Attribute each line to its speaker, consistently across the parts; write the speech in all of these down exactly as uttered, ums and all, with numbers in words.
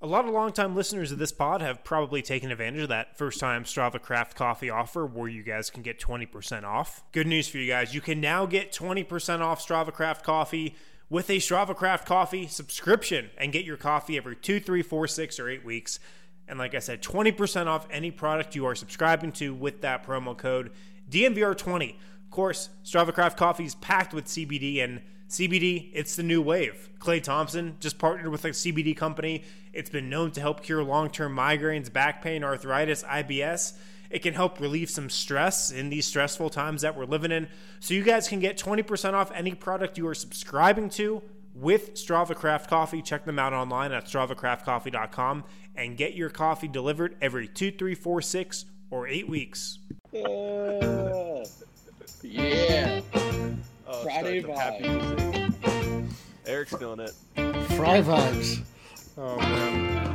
Speaker 1: A lot of longtime listeners of this pod have probably taken advantage of that first-time Strava Craft Coffee offer where you guys can get twenty percent off. Good news for you guys. You can now get twenty percent off Strava Craft Coffee with a Strava Craft Coffee subscription and get your coffee every two, three, four, six, or eight weeks. And like I said, twenty percent off any product you are subscribing to with that promo code D N V R twenty. Of course, Strava Craft Coffee is packed with C B D, and C B D, it's the new wave. Clay Thompson just partnered with a C B D company. It's been known to help cure long-term migraines, back pain, arthritis, I B S. It can help relieve some stress in these stressful times that we're living in. So you guys can get twenty percent off any product you are subscribing to with Strava Craft Coffee. Check them out online at strava craft coffee dot com and get your coffee delivered every two, three, four, six, or eight weeks.
Speaker 2: Uh, yeah.
Speaker 3: Oh,
Speaker 2: Friday vibe.
Speaker 3: Eric's feeling it.
Speaker 4: Fry vibes.
Speaker 1: Oh, man.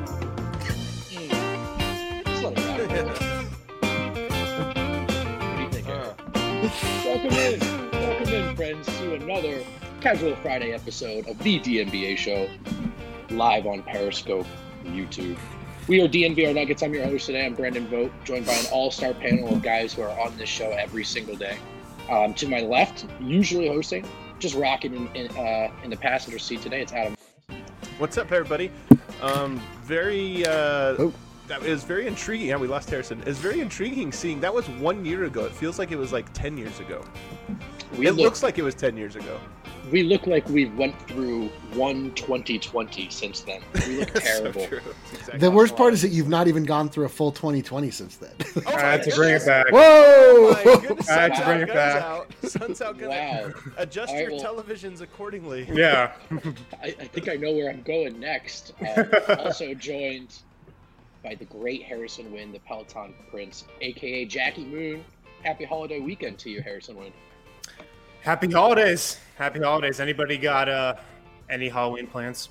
Speaker 2: Mm. Just let it happen. What do you think, Eric?
Speaker 3: Uh,
Speaker 2: Welcome in. Welcome in, friends, to another Casual Friday episode of the D N B A Show, live on Periscope and YouTube. We are D N V R Nuggets. I'm your host today. I'm Brendan Vogt, joined by an all-star panel of guys who are on this show every single day. Um, to my left, usually hosting, just rocking in in, uh, in the passenger seat today, it's Adam.
Speaker 3: what's up, everybody? Um, very, uh,
Speaker 4: Oh.
Speaker 3: that is very intriguing. Yeah, we lost Harrison. It's very intriguing seeing that was one year ago. It feels like it was like ten years ago.
Speaker 2: We
Speaker 3: it
Speaker 2: look,
Speaker 3: looks like it was ten years ago.
Speaker 2: we look like we went through one twenty twenty since then. We look terrible.
Speaker 3: So true. That's exactly
Speaker 4: The
Speaker 3: how
Speaker 4: worst
Speaker 3: it
Speaker 4: part
Speaker 3: was.
Speaker 4: is that you've not even gone through a full twenty twenty since then.
Speaker 3: Oh
Speaker 1: I
Speaker 3: my
Speaker 1: had to bring it
Speaker 3: goodness.
Speaker 1: back.
Speaker 4: Whoa!
Speaker 3: My goodness,
Speaker 1: I had to
Speaker 3: sun's
Speaker 1: bring
Speaker 3: out,
Speaker 1: it
Speaker 3: guns
Speaker 1: back.
Speaker 3: Out. Sun's out, guns
Speaker 2: Wow.
Speaker 3: out. Adjust
Speaker 2: All right,
Speaker 3: your
Speaker 2: well-
Speaker 3: televisions accordingly.
Speaker 1: Yeah.
Speaker 2: I, I think I know where I'm going next. Um, also joined by the great Harrison Wind, the Peloton Prince, aka Jackie Moon. Happy holiday weekend to you, Harrison Wind.
Speaker 1: Happy holidays. Happy holidays. Anybody got uh, any Halloween plans?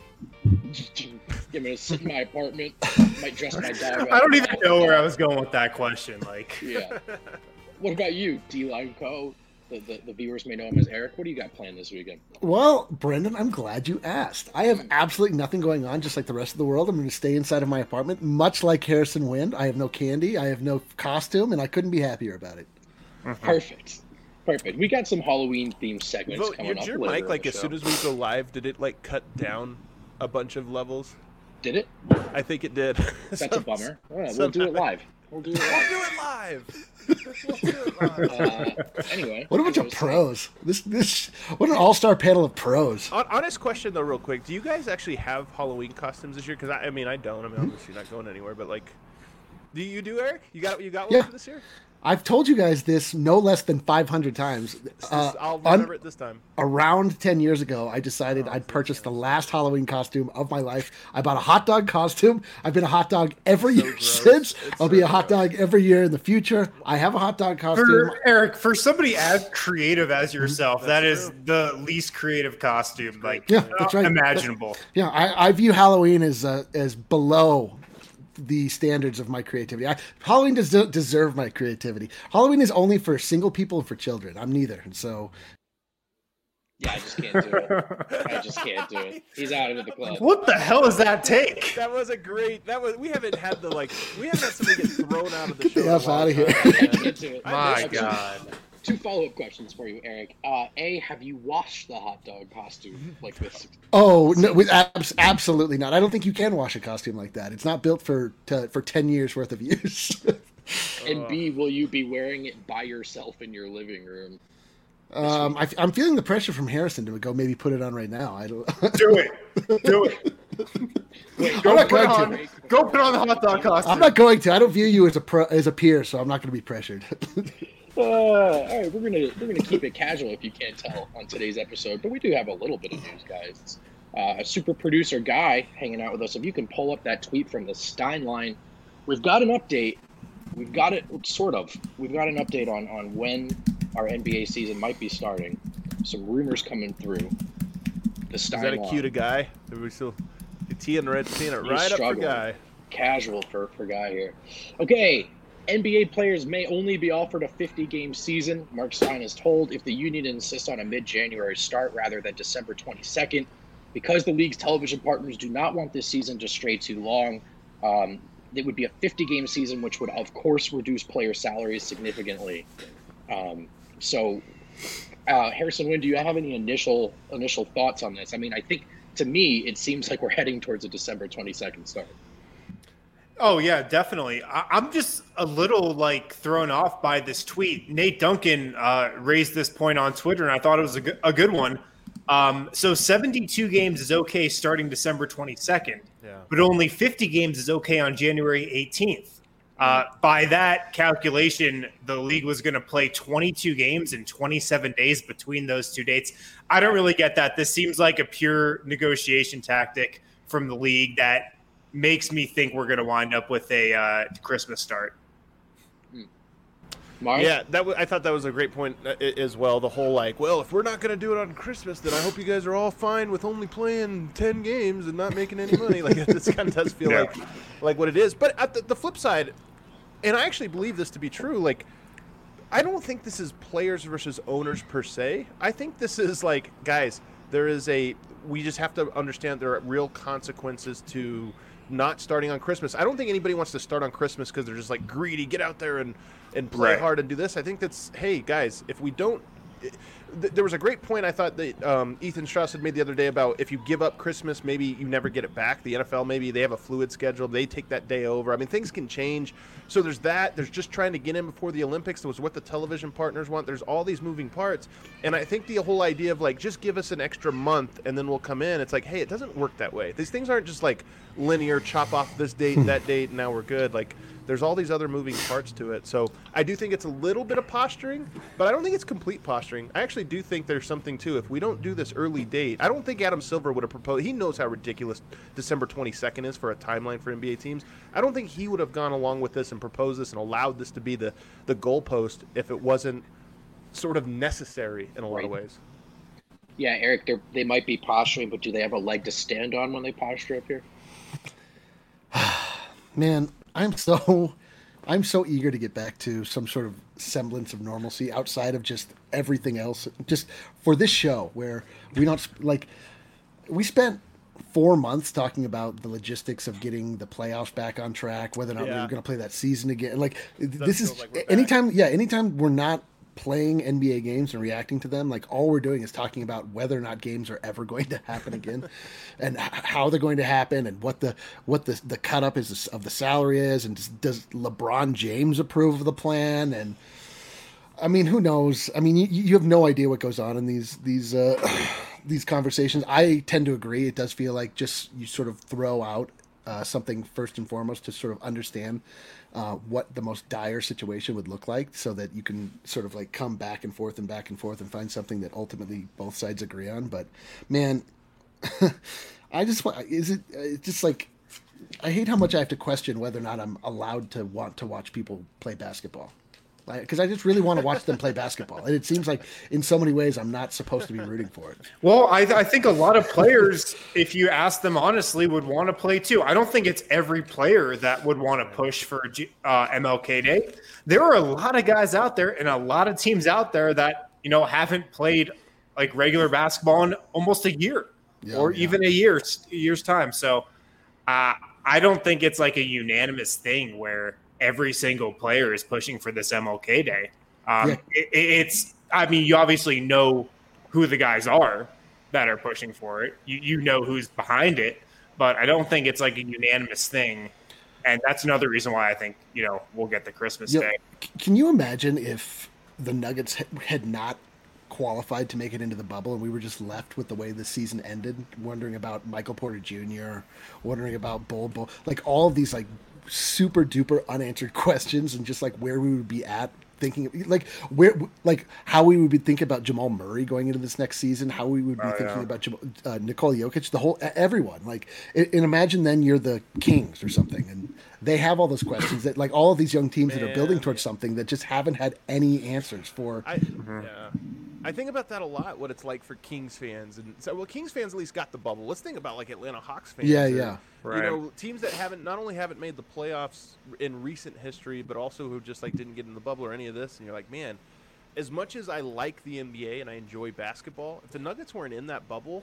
Speaker 2: I'm gonna sit in my apartment, might dress my dog.
Speaker 1: I
Speaker 2: up.
Speaker 1: don't even know where I was going with that question. Like,
Speaker 2: Yeah. What about you, D-Line Co? The, the, the viewers may know him as Eric. What do you got planned this weekend?
Speaker 4: Well, Brendan, I'm glad you asked. I have absolutely nothing going on, just like the rest of the world. I'm going to stay inside of my apartment, much like Harrison Wind. I have no candy, I have no costume, and I couldn't be happier about it.
Speaker 2: Perfect. Perfect. We got some Halloween themed segments
Speaker 3: Vote,
Speaker 2: coming
Speaker 3: your,
Speaker 2: up.
Speaker 3: your
Speaker 2: later
Speaker 3: mic,
Speaker 2: in
Speaker 3: like
Speaker 2: the
Speaker 3: as
Speaker 2: show.
Speaker 3: soon as we go live, did it like cut down a bunch of levels?
Speaker 2: Did it?
Speaker 3: I think it did.
Speaker 2: That's a bummer. All right, we'll do it live. We'll do it
Speaker 3: We'll
Speaker 2: live.
Speaker 3: do it live. We'll do it live.
Speaker 2: Uh, anyway.
Speaker 4: What a bunch
Speaker 2: as I
Speaker 4: of
Speaker 2: was
Speaker 4: pros! This, this, what an all-star panel of pros.
Speaker 3: Hon- Honest question though, real quick. Do you guys actually have Halloween costumes this year? Because I, I mean, I don't. I mean, obviously not going anywhere. But like, do you do, Eric? You got you got one
Speaker 4: Yeah.
Speaker 3: for this year?
Speaker 4: I've told you guys this no less than five hundred times.
Speaker 3: This-
Speaker 4: Uh,
Speaker 3: I'll
Speaker 4: un-
Speaker 3: remember it this time.
Speaker 4: around ten years ago, I decided
Speaker 3: Oh,
Speaker 4: I'd purchase the last Halloween costume of my life. I bought a hot dog costume. I've been a hot dog every
Speaker 3: So
Speaker 4: year
Speaker 3: gross.
Speaker 4: since.
Speaker 3: It's
Speaker 4: I'll
Speaker 3: so
Speaker 4: be a hot
Speaker 3: gross.
Speaker 4: dog every year in the future. I have a hot dog costume.
Speaker 1: for Eric, for somebody as creative as yourself,
Speaker 3: That's
Speaker 1: that is
Speaker 3: true.
Speaker 1: the least creative costume, like
Speaker 4: Yeah, that's right.
Speaker 1: imaginable.
Speaker 4: Yeah, I, I view Halloween as uh, as below the standards of my creativity. I, Halloween does not deserve my creativity. Halloween is only for single people and for children. I'm neither, and so
Speaker 2: Yeah, I just can't do it. I just can't do it. He's out of the club.
Speaker 1: What the hell does that take?
Speaker 3: That was a great. That was. We haven't had the like. We haven't had somebody get thrown out of the
Speaker 4: Get
Speaker 3: show.
Speaker 4: the
Speaker 3: in a
Speaker 4: F
Speaker 3: long
Speaker 4: outta here.
Speaker 3: time,
Speaker 2: I
Speaker 3: man.
Speaker 2: can't do it.
Speaker 3: My
Speaker 2: Okay,
Speaker 1: God.
Speaker 2: Two follow-up questions for you, Eric. Uh, A, have you washed the hot dog costume like this?
Speaker 4: oh no, with abs- absolutely not. I don't think you can wash a costume like that. It's not built for to, for ten years worth of use.
Speaker 2: And B, will you be wearing it by yourself in your living room?
Speaker 4: um, I, I'm feeling the pressure from Harrison to go maybe put it on right now. I don't.
Speaker 1: Do it. Do it.
Speaker 2: Wait,
Speaker 1: Go
Speaker 4: I'm not
Speaker 1: put
Speaker 4: going
Speaker 1: on.
Speaker 4: to.
Speaker 1: Go put on the hot dog costume.
Speaker 4: I'm not going to. I don't view you as a pro, as a peer, so I'm not going to be pressured.
Speaker 2: Uh, all right, we're gonna we're gonna keep it casual if you can't tell on today's episode, but we do have a little bit of news, guys. Uh, a super producer guy hanging out with us. If you can pull up that tweet from the Stein line, we've got an update. We've got it sort of. We've got an update on on when our N B A season might be starting. Some rumors coming through. The
Speaker 3: Is
Speaker 2: Stein
Speaker 3: that a
Speaker 2: line.
Speaker 3: cue to guy? Are we still teeing red, teeing it
Speaker 2: He's
Speaker 3: right up for
Speaker 2: struggling.
Speaker 3: guy?
Speaker 2: Casual for, for guy here. Okay, N B A players may only be offered a fifty-game season. Mark Stein is told if the union insists on a mid-January start rather than December twenty-second, because the league's television partners do not want this season to stray too long. Um, it would be a fifty-game season, which would, of course, reduce player salaries significantly. Um, so, uh, Harrison Wind, do you have any initial initial thoughts on this? I mean, I think, to me, it seems like we're heading towards a December twenty-second start.
Speaker 1: Oh, yeah, definitely. I- I'm just a little, like, thrown off by this tweet. Nate Duncan uh, raised this point on Twitter, and I thought it was a good, a good one. Um, so seventy-two games is okay starting December twenty-second,
Speaker 3: Yeah.
Speaker 1: but only fifty games is okay on January eighteenth. Uh, by that calculation, the league was going to play twenty-two games in twenty-seven days between those two dates. I don't really get that. This seems like a pure negotiation tactic from the league that makes me think we're going to wind up with a uh, Christmas start.
Speaker 2: Mark?
Speaker 3: Yeah, that w- I thought that was a great point uh, as well. The whole like, well, if we're not going to do it on Christmas, then I hope you guys are all fine with only playing ten games and not making any money. Like, this kind of does feel
Speaker 1: Yeah.
Speaker 3: like like what it is. But at the, the flip side, and I actually believe this to be true, like, I don't think this is players versus owners per se. I think this is like, guys, there is a, we just have to understand there are real consequences to not starting on Christmas. I don't think anybody wants to start on Christmas because they're just like greedy, get out there and, and play
Speaker 1: Right.
Speaker 3: hard and do this. I think that's, hey, guys, if we don't, th- there was a great point I thought that um, Ethan Strauss had made the other day about if you give up Christmas, maybe you never get it back. The N F L, maybe they have a fluid schedule. They take that day over. I mean, things can change. So there's that. There's just trying to get in before the Olympics. That was what the television partners want. There's all these moving parts. And I think the whole idea of like, just give us an extra month and then we'll come in. It's like, hey, it doesn't work that way. These things aren't just like linear, chop off this date and that date and now we're good. Like, there's all these other moving parts to it. So I do think it's a little bit of posturing, but I don't think it's complete posturing. I actually do think there's something too. If we don't do this early date, I don't think Adam Silver would have proposed. He knows how ridiculous December twenty-second is for a timeline for N B A teams. I don't think he would have gone along with this and proposed this and allowed this to be the, the goalpost if it wasn't sort of necessary in a lot of
Speaker 2: Right.
Speaker 3: ways.
Speaker 2: Yeah, Eric, they they might be posturing, but do they have a leg to stand on when they posture up here?
Speaker 4: Man, I'm so I'm so eager to get back to some sort of semblance of normalcy outside of just everything else. Just for this show where we don't like we spent four months talking about the logistics of getting the playoffs back on track, whether or not we
Speaker 3: Yeah.
Speaker 4: were going to play that season again. Like this is
Speaker 3: feels like we're back.
Speaker 4: anytime, yeah, anytime we're not playing N B A games and reacting to them, like all we're doing is talking about whether or not games are ever going to happen again, and h- how they're going to happen, and what the what the the cut up is of the salary is, and does, does LeBron James approve of the plan? And I mean, who knows? I mean, you, you have no idea what goes on in these these uh, these conversations. I tend to agree. It does feel like just you sort of throw out uh, something first and foremost to sort of understand uh, what the most dire situation would look like, so that you can sort of like come back and forth and back and forth and find something that ultimately both sides agree on. But man, I just want is it it's just like I hate how much I have to question whether or not I'm allowed to want to watch people play basketball. Because I just really want to watch them play basketball. And it seems like in so many ways I'm not supposed to be rooting for it.
Speaker 1: Well, I, I think a lot of players, if you ask them honestly, would want to play too. I don't think it's every player that would want to push for G- uh, M L K Day. There are a lot of guys out there and a lot of teams out there that, you know, haven't played like regular basketball in almost a year
Speaker 4: Yeah,
Speaker 1: or
Speaker 4: yeah.
Speaker 1: even a year's year's time. So uh, I don't think it's like a unanimous thing where every single player is pushing for this M L K Day. Um,
Speaker 4: Yeah.
Speaker 1: it, it's, I mean, you obviously know who the guys are that are pushing for it. You you know who's behind it, but I don't think it's like a unanimous thing. And that's another reason why I think, you know, we'll get the Christmas
Speaker 4: Yeah,
Speaker 1: Day.
Speaker 4: c- can you imagine if the Nuggets ha- had not qualified to make it into the bubble and we were just left with the way the season ended, wondering about Michael Porter Junior, wondering about Bol Bol, like all of these like super duper unanswered questions, and just like where we would be at thinking like where like how we would be thinking about Jamal Murray going into this next season, how we would be
Speaker 1: Oh,
Speaker 4: thinking
Speaker 1: yeah.
Speaker 4: about Jamal, uh, Nikola Jokic, the whole everyone. Like, and and imagine then you're the Kings or something, and they have all those questions that like all of these young teams that are building
Speaker 3: Man,
Speaker 4: towards something that just haven't had any answers for.
Speaker 3: I yeah. I think about that a lot. What it's like for Kings fans, and so well, Kings fans at least got the bubble. Let's think about like Atlanta Hawks fans.
Speaker 4: Yeah,
Speaker 3: or,
Speaker 4: yeah.
Speaker 1: Right.
Speaker 3: You know, teams that haven't not only haven't made the playoffs in recent history, but also who just like didn't get in the bubble or any of this. And you're like, man, as much as I like the N B A and I enjoy basketball, if the Nuggets weren't in that bubble,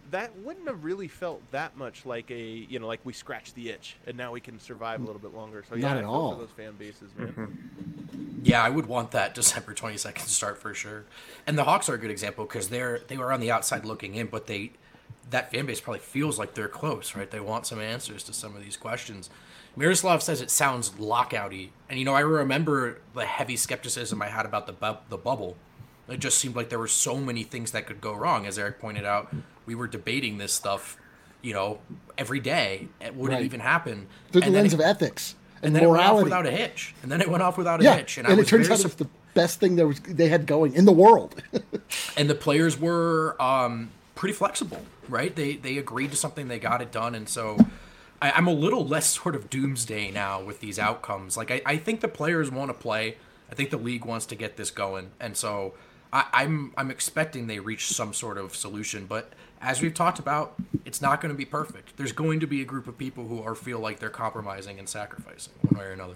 Speaker 3: that wouldn't have really felt that much like a, you know, like we scratched the itch and now we can survive a little bit longer. So, yeah,
Speaker 4: Not
Speaker 3: I
Speaker 4: at
Speaker 3: feel
Speaker 4: all.
Speaker 3: for those fan bases, man.
Speaker 5: Mm-hmm. Yeah, I would want that December twenty-second start for sure. And the Hawks are a good example because they're they were on the outside looking in, but they that fan base probably feels like they're close, right? They want some answers to some of these questions. Miroslav says it sounds lockouty, and you know I remember the heavy skepticism I had about the bu- the bubble. It just seemed like there were so many things that could go wrong. As Eric pointed out, we were debating this stuff, you know, every day. Would
Speaker 4: Right.
Speaker 5: it even happen?
Speaker 4: Through the
Speaker 5: And then
Speaker 4: lens
Speaker 5: it-
Speaker 4: of ethics and,
Speaker 5: and then it went off
Speaker 4: morality.
Speaker 5: without a hitch. And then it went off without a
Speaker 4: yeah,
Speaker 5: hitch.
Speaker 4: and,
Speaker 5: I
Speaker 4: it
Speaker 5: was
Speaker 4: turns
Speaker 5: very
Speaker 4: out
Speaker 5: su-
Speaker 4: it's the best thing there was they had going in the world.
Speaker 5: and the players were um, pretty flexible, right? They they agreed to something, they got it done, and so I, I'm a little less sort of doomsday now with these outcomes. Like I, I think the players want to play. I think the league wants to get this going, and so I, I'm I'm expecting they reach some sort of solution. But as we've talked about, it's not going to be perfect. There's going to be a group of people who are feel like they're compromising and sacrificing one way or another.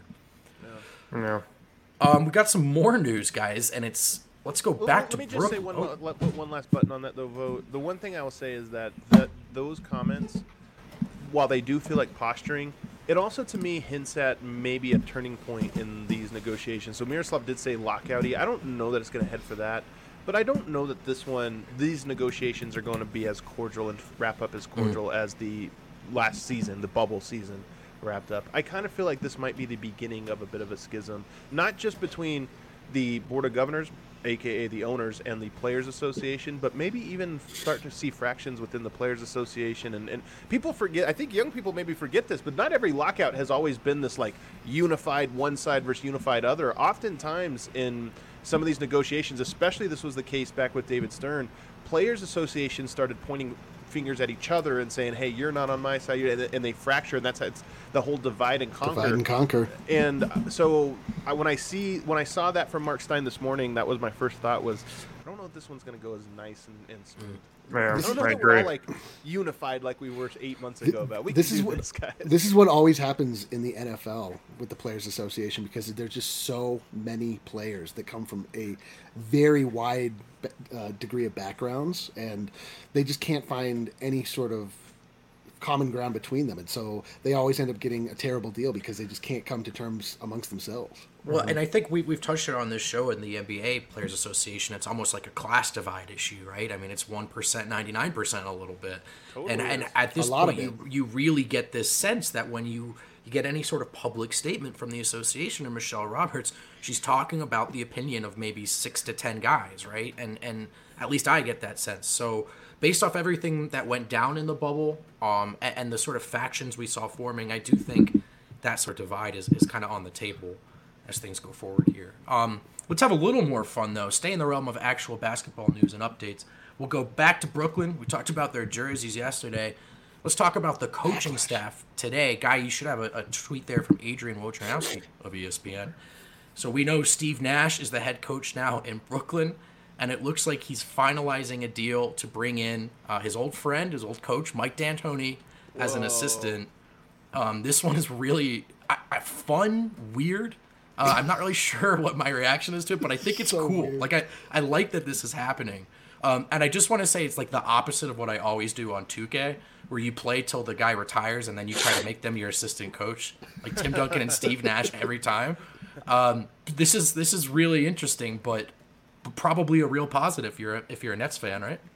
Speaker 1: No.
Speaker 5: Um, we got some more news, guys, and it's let's go
Speaker 3: Well,
Speaker 5: back
Speaker 3: let
Speaker 5: to
Speaker 3: me just
Speaker 5: Brook-
Speaker 3: say one,
Speaker 5: oh.
Speaker 3: la- put one last button on that, though, Vo. The one thing I will say is that, that those comments, while they do feel like posturing, it also, to me, hints at maybe a turning point in these negotiations. So Miroslav did say lockouty. I don't know that it's going to head for that, but I don't know that this one, these negotiations are going to be as cordial and wrap up as cordial mm. as the last season, the bubble season, wrapped up. I kind of feel like this might be the beginning of a bit of a schism, not just between the Board of Governors, aka the owners, and the Players Association, but maybe even start to see fractions within the Players Association. And, and people forget, I think young people maybe forget this, but not every lockout has always been this like unified one side versus unified other. Oftentimes in some of these negotiations, especially this was the case back with David Stern, Players Association started pointing fingers at each other and saying, hey, you're not on my side, and they fracture, and that's it's the whole divide and conquer.
Speaker 4: Divide and conquer.
Speaker 3: And so I, when I see when I saw that from Mark Stein this morning, that was my first thought was, I don't know if this one's going to go as nice and, and smooth.
Speaker 1: Yeah,
Speaker 3: I don't know
Speaker 1: I
Speaker 3: that we're
Speaker 1: agree.
Speaker 3: all like unified like we were eight months ago. About we
Speaker 4: this
Speaker 3: can
Speaker 4: is
Speaker 3: do
Speaker 4: what
Speaker 3: this, guys.
Speaker 4: this is what always happens in the N F L with the Players Association, because there's just so many players that come from a very wide uh, degree of backgrounds, and they just can't find any sort of common ground between them, and so they always end up getting a terrible deal because they just can't come to terms amongst themselves.
Speaker 5: Well, and I think we, we've touched on this show in the N B A Players Association. It's almost like a class divide issue, right? I mean, it's one percent, ninety-nine percent a little bit. Totally and and
Speaker 3: is.
Speaker 5: at this
Speaker 4: A lot
Speaker 5: point,
Speaker 4: of
Speaker 5: you, you really get this sense that when you, you get any sort of public statement from the association or Michelle Roberts, she's talking about the opinion of maybe six to ten guys, right? And and at least I get that sense. So based off everything that went down in the bubble um, and, and the sort of factions we saw forming, I do think that sort of divide is, is kind of on the table as things go forward here. Um, let's have a little more fun, though. Stay in the realm of actual basketball news and updates. We'll go back to Brooklyn. We talked about their jerseys yesterday. Let's talk about the coaching staff today. Guy, you should have a, a tweet there from Adrian Wojnarowski of E S P N. So we know Steve Nash is the head coach now in Brooklyn, and it looks like he's finalizing a deal to bring in uh, his old friend, his old coach, Mike D'Antoni, as an assistant. Um, this one is really I, I, fun, weird. Uh, I'm not really sure what my reaction is to it, but I think it's
Speaker 4: So
Speaker 5: cool.
Speaker 4: weird.
Speaker 5: Like I, I like that this is happening. Um, and I just want to say it's like the opposite of what I always do on two K, where you play till the guy retires and then you try to make them your assistant coach, like Tim Duncan and Steve Nash every time. Um, this is this is really interesting, but probably a real positive if you're a, if you're a Nets fan, right?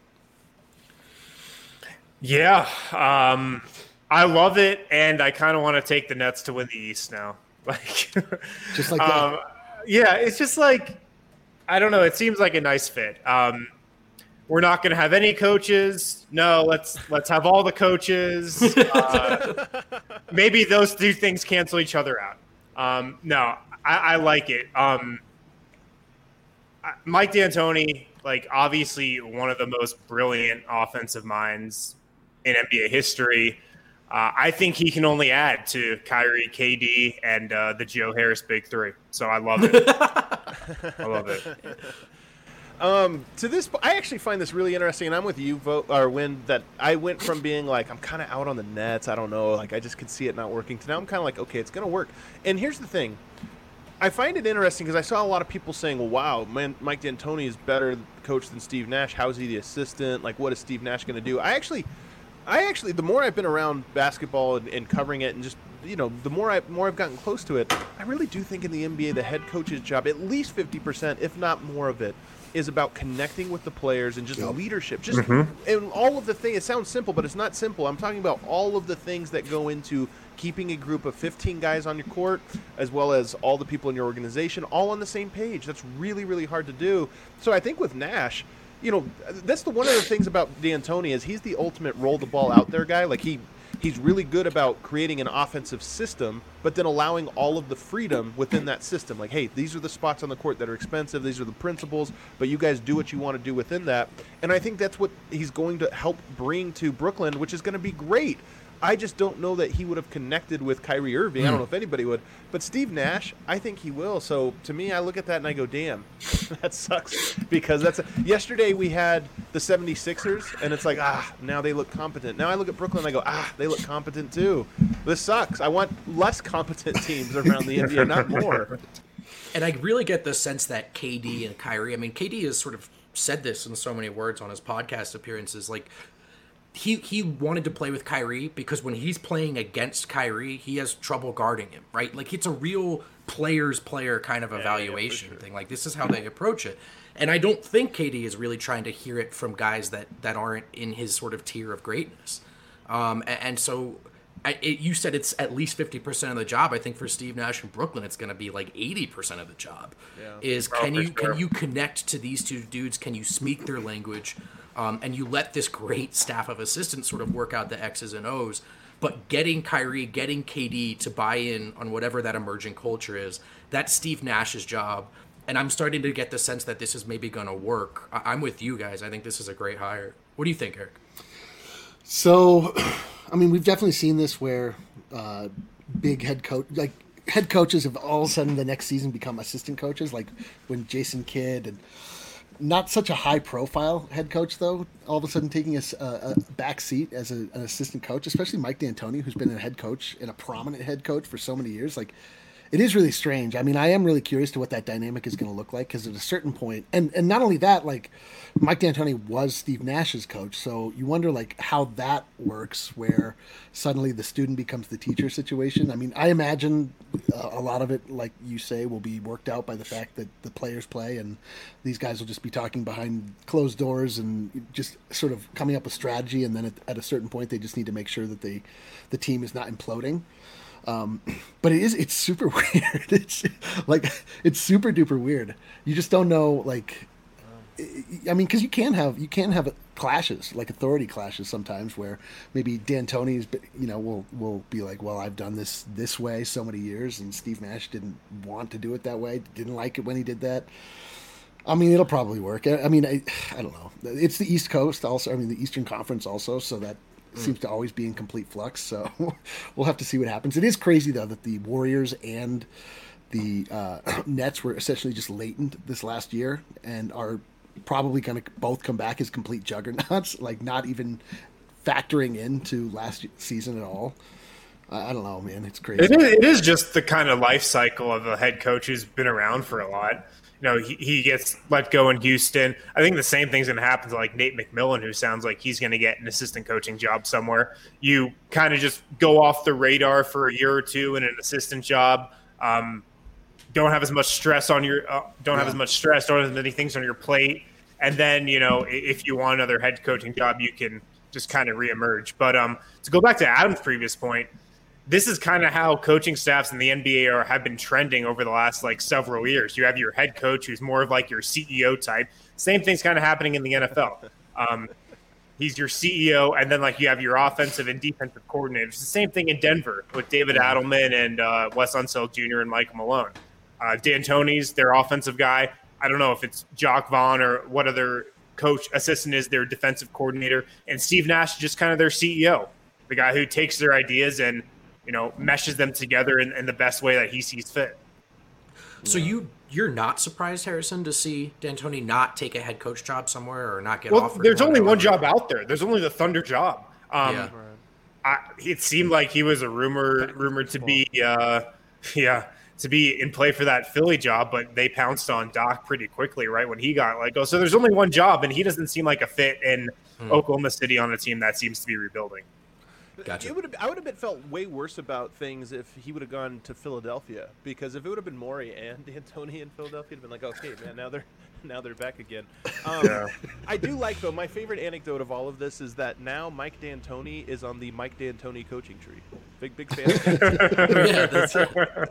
Speaker 1: Yeah, um, I love it, and I kind of want to take the Nets to win the East now. Like,
Speaker 4: Just like that.
Speaker 1: um, yeah, it's just like I don't know. It seems like a nice fit. Um, we're not going to have any coaches. No, let's let's have all the coaches. Uh, maybe those two things cancel each other out. Um, no, I, I like it. Um, Mike D'Antoni, like obviously one of the most brilliant offensive minds in N B A history. Uh, I think he can only add to Kyrie, K D, and uh, the Joe Harris Big Three. So I love it. I love it.
Speaker 3: Um, to this, I actually find this really interesting, and I'm with you, vote or Win, that I went from being like I'm kind of out on the Nets. I don't know, like I just could see it not working. To now I'm kind of like, okay, it's gonna work. And here's the thing: I find it interesting because I saw a lot of people saying, well, wow, man, Mike D'Antoni is better coach than Steve Nash. How is he the assistant? Like, what is Steve Nash going to do? I actually, I actually, the more I've been around basketball and, and covering it and just, you know, the more, I, more I've gotten close to it, I really do think in the N B A, the head coach's job, at least fifty percent, if not more of it, is about connecting with the players and just yep. leadership. Just mm-hmm. and all of the things. It sounds simple, but it's not simple. I'm talking about all of the things that go into keeping a group of fifteen guys on your court, as well as all the people in your organization, all on the same page. That's really, really hard to do. So I think with Nash, you know, that's the one of the things about D'Antoni is he's the ultimate roll the ball out there guy. Like he. He's really good about creating an offensive system, but then allowing all of the freedom within that system. Like, hey, these are the spots on the court that are expensive. These are the principles, but you guys do what you want to do within that. And I think that's what he's going to help bring to Brooklyn, which is going to be great. I just don't know that he would have connected with Kyrie Irving. Mm. I don't know if anybody would. But Steve Nash, I think he will. So to me, I look at that and I go, damn, that sucks. Because that's a, yesterday we had the seventy-sixers, and it's like, ah, now they look competent. Now I look at Brooklyn and I go, ah, they look competent too. This sucks. I want less competent teams around the N B A, not more.
Speaker 5: And I really get the sense that K D and Kyrie, I mean, K D has sort of said this in so many words on his podcast appearances, like, He he wanted to play with Kyrie because when he's playing against Kyrie, he has trouble guarding him, right? Like, it's a real player's player kind of evaluation yeah, yeah, sure. thing. Like, this is how they approach it. And I don't think K D is really trying to hear it from guys that, that aren't in his sort of tier of greatness. Um, and, and so I, it, you said it's at least fifty percent of the job. I think for Steve Nash in Brooklyn, it's going to be like eighty percent of the job. Yeah. Is can you sure. can you connect to these two dudes? Can you speak their language? Um, and you let this great staff of assistants sort of work out the X's and O's, but getting Kyrie, getting K D to buy in on whatever that emerging culture is, that's Steve Nash's job. And I'm starting to get the sense that this is maybe going to work. I- I'm with you guys. I think this is a great hire. What do you think, Eric?
Speaker 4: So, I mean, we've definitely seen this where uh, big head coach, like head coaches have all of a sudden the next season become assistant coaches, like when Jason Kidd and not such a high-profile head coach, though, all of a sudden taking a, a back seat as a, an assistant coach, especially Mike D'Antoni, who's been a head coach and a prominent head coach for so many years. Like, it is really strange. I mean, I am really curious to what that dynamic is going to look like because at a certain point, and, and not only that, like, Mike D'Antoni was Steve Nash's coach, so you wonder, like, how that works where suddenly the student becomes the teacher situation. I mean, I imagine uh, a lot of it, like you say, will be worked out by the fact that the players play and these guys will just be talking behind closed doors and just sort of coming up with strategy, and then at, at a certain point they just need to make sure that they, the team is not imploding. Um, but it is, it's super weird. It's like, it's super duper weird. You just don't know, like, I mean, cause you can have, you can have clashes, like authority clashes sometimes where maybe D'Antoni's, you know, will, will be like, well, I've done this this way so many years and Steve Nash didn't want to do it that way. Didn't like it when he did that. I mean, it'll probably work. I, I mean, I, I don't know. It's the East Coast also. I mean, the Eastern Conference also. So that, seems to always be in complete flux, so we'll have to see what happens. It is crazy, though, that the Warriors and the uh, Nets were essentially just latent this last year and are probably going to both come back as complete juggernauts, like not even factoring into last season at all. I don't know, man. It's crazy.
Speaker 1: It is, it is just the kind of life cycle of a head coach who's been around for a lot. You know, he, he gets let go in Houston. I think the same thing's going to happen to like Nate McMillan, who sounds like he's going to get an assistant coaching job somewhere. You kind of just go off the radar for a year or two in an assistant job. Um, don't have as much stress on your uh, don't yeah. have as much stress or as many things on your plate. And then, you know, if you want another head coaching job, you can just kind of reemerge. But um, to go back to Adam's previous point, this is kind of how coaching staffs in the N B A are, have been trending over the last like several years. You have your head coach who's more of like your C E O type. Same thing's kind of happening in the N F L. Um, he's your C E O, and then like you have your offensive and defensive coordinators. It's the same thing in Denver with David Adelman and uh, Wes Unseld Junior and Michael Malone. Uh, D'Antoni's their offensive guy. I don't know if it's Jock Vaughn or what other coach assistant is their defensive coordinator, and Steve Nash is just kind of their C E O, the guy who takes their ideas and you know, meshes them together in, in the best way that he sees fit.
Speaker 5: So yeah. you you're not surprised, Harrison, to see D'Antoni not take a head coach job somewhere or not get
Speaker 1: well,
Speaker 5: offered?
Speaker 1: There's only one job out there. There's only the Thunder job. Um, yeah. I, it seemed like he was a rumor rumored to be, uh, yeah, to be in play for that Philly job, but they pounced on Doc pretty quickly right when he got let go. So there's only one job, and he doesn't seem like a fit in mm. Oklahoma City on a team that seems to be rebuilding.
Speaker 3: Gotcha. It would have, I would have been felt way worse about things if he would have gone to Philadelphia, because if it would have been Morey and D'Antoni in Philadelphia, it'd been like, okay, man, now they're now they're back again. Um, yeah. I do like, though, my favorite anecdote of all of this is that now Mike D'Antoni is on the Mike D'Antoni coaching tree. Big, big fan.
Speaker 5: Yeah, that's a,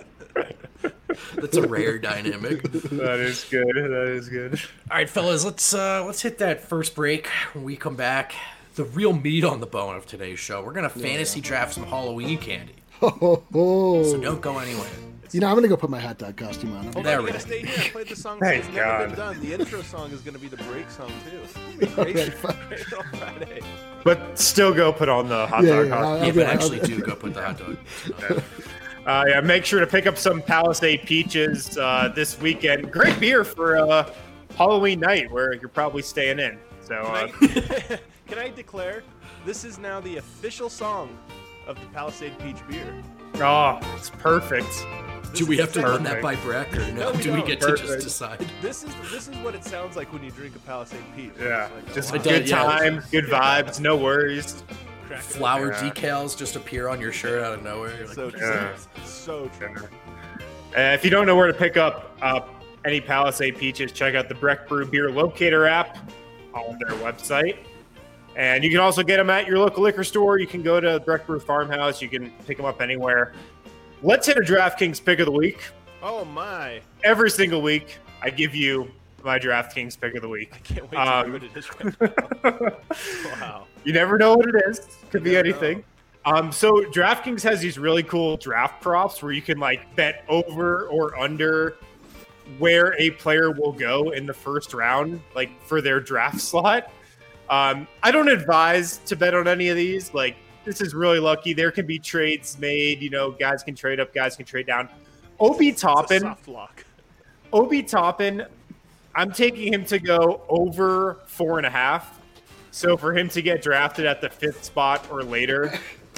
Speaker 5: that's a rare dynamic.
Speaker 1: That is good. That is good.
Speaker 5: All right, fellas, let's uh, let's hit that first break. When we come back, the real meat on the bone of today's show. We're gonna fantasy draft some Halloween candy.
Speaker 4: Oh, oh.
Speaker 5: So don't go anywhere.
Speaker 4: You know, I'm gonna go put my hot dog costume on.
Speaker 3: Oh,
Speaker 5: there we
Speaker 3: go. Stay here. I played the song that's never God. been done. The intro song is gonna be the break song too. Crazy. Right on Friday.
Speaker 1: But still, go put on the hot
Speaker 4: yeah,
Speaker 1: dog
Speaker 4: yeah,
Speaker 1: costume.
Speaker 5: Yeah, but actually, do go put the hot dog.
Speaker 1: Yeah. Uh, yeah, make sure to pick up some Palisade Peaches uh, this weekend. Great beer for uh, Halloween night, where you're probably staying in. So, uh,
Speaker 3: can, I, can I declare this is now the official song of the Palisade Peach beer?
Speaker 1: Oh, it's perfect.
Speaker 5: Do we have to run that by Breck, or no?
Speaker 3: No, we
Speaker 5: do we
Speaker 3: don't.
Speaker 5: get
Speaker 1: Perfect.
Speaker 5: to just decide?
Speaker 3: This is this is what it sounds like when you drink a Palisade Peach.
Speaker 1: Yeah,
Speaker 3: It's like,
Speaker 1: just
Speaker 3: oh,
Speaker 1: a
Speaker 3: wow.
Speaker 1: good
Speaker 5: yeah.
Speaker 1: time, good vibes, no worries.
Speaker 3: Crack it
Speaker 5: Flower
Speaker 1: Yeah.
Speaker 5: decals just appear on your shirt out of nowhere. You're like,
Speaker 3: So
Speaker 5: what is
Speaker 3: true.
Speaker 1: Yeah.
Speaker 3: So true.
Speaker 1: Uh, if you don't know where to pick up uh, any Palisade Peaches, check out the Breck Brew Beer Locator app on their website. And you can also get them at your local liquor store. You can go to Breck Brew Farmhouse. You can pick them up anywhere. Let's hit a DraftKings pick of the week.
Speaker 3: Oh my!
Speaker 1: Every single week, I give you my DraftKings pick of the week.
Speaker 3: I can't wait
Speaker 1: Um,
Speaker 3: to do what it is right now. Wow.
Speaker 1: You never know what it is. Could be
Speaker 3: never
Speaker 1: anything. Um, so DraftKings has these really cool draft props where you can like bet over or under where a player will go in the first round, like for their draft slot. Um, I don't advise to bet on any of these. Like, this is really lucky. There can be trades made. You know, guys can trade up, guys can trade down. Obi
Speaker 3: It's a
Speaker 1: Toppin,
Speaker 3: soft lock.
Speaker 1: Obi Toppin, I'm taking him to go over four and a half. So for him to get drafted at the fifth spot or later,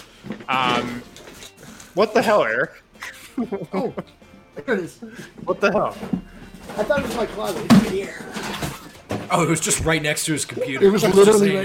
Speaker 1: um, what the hell, Eric?
Speaker 4: Oh, there it is.
Speaker 1: What the hell?
Speaker 4: I thought it was my closet. It's in here.
Speaker 5: oh, it was just right next to his computer.
Speaker 4: It was
Speaker 5: I just
Speaker 4: literally
Speaker 5: saying
Speaker 4: right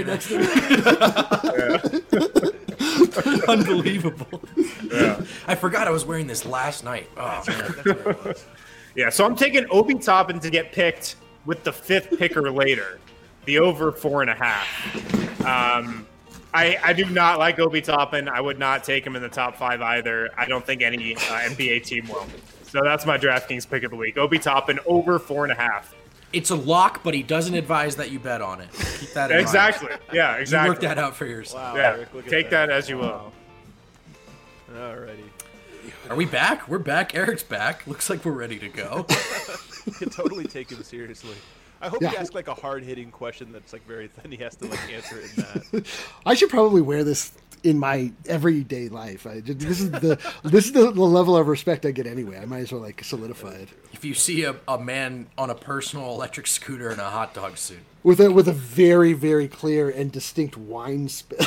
Speaker 5: that.
Speaker 4: next to me.
Speaker 5: Unbelievable.
Speaker 1: Yeah.
Speaker 5: I forgot I was wearing this last night. Oh, man.
Speaker 3: That's what it was.
Speaker 1: Yeah, so I'm taking Obi Toppin to get picked with the fifth pick or later, the over four and a half. Um, I, I do not like Obi Toppin. I would not take him in the top five either. I don't think any uh, N B A team will. So that's my DraftKings pick of the week. Obi Toppin over four and a half.
Speaker 5: It's a lock, but he doesn't advise that you bet on it. Keep that in
Speaker 1: Exactly.
Speaker 5: mind.
Speaker 1: Yeah,
Speaker 5: You
Speaker 1: exactly.
Speaker 5: work that out for yourself.
Speaker 3: Wow,
Speaker 1: Yeah,
Speaker 3: Eric, look at
Speaker 1: take that as you will.
Speaker 3: Alrighty.
Speaker 5: Are we back? We're back. Eric's back. Looks like we're ready to go.
Speaker 3: You can totally take him seriously. I hope
Speaker 4: Yeah.
Speaker 3: you ask like a hard-hitting question that's like very thin. He has to like answer it in that.
Speaker 4: I should probably wear this in my everyday life. I just, this is the this is the, the level of respect I get anyway. I might as well like solidify it
Speaker 5: If you see a, a man on a personal electric scooter in a hot dog suit,
Speaker 4: with a with a very very clear and distinct wine spill.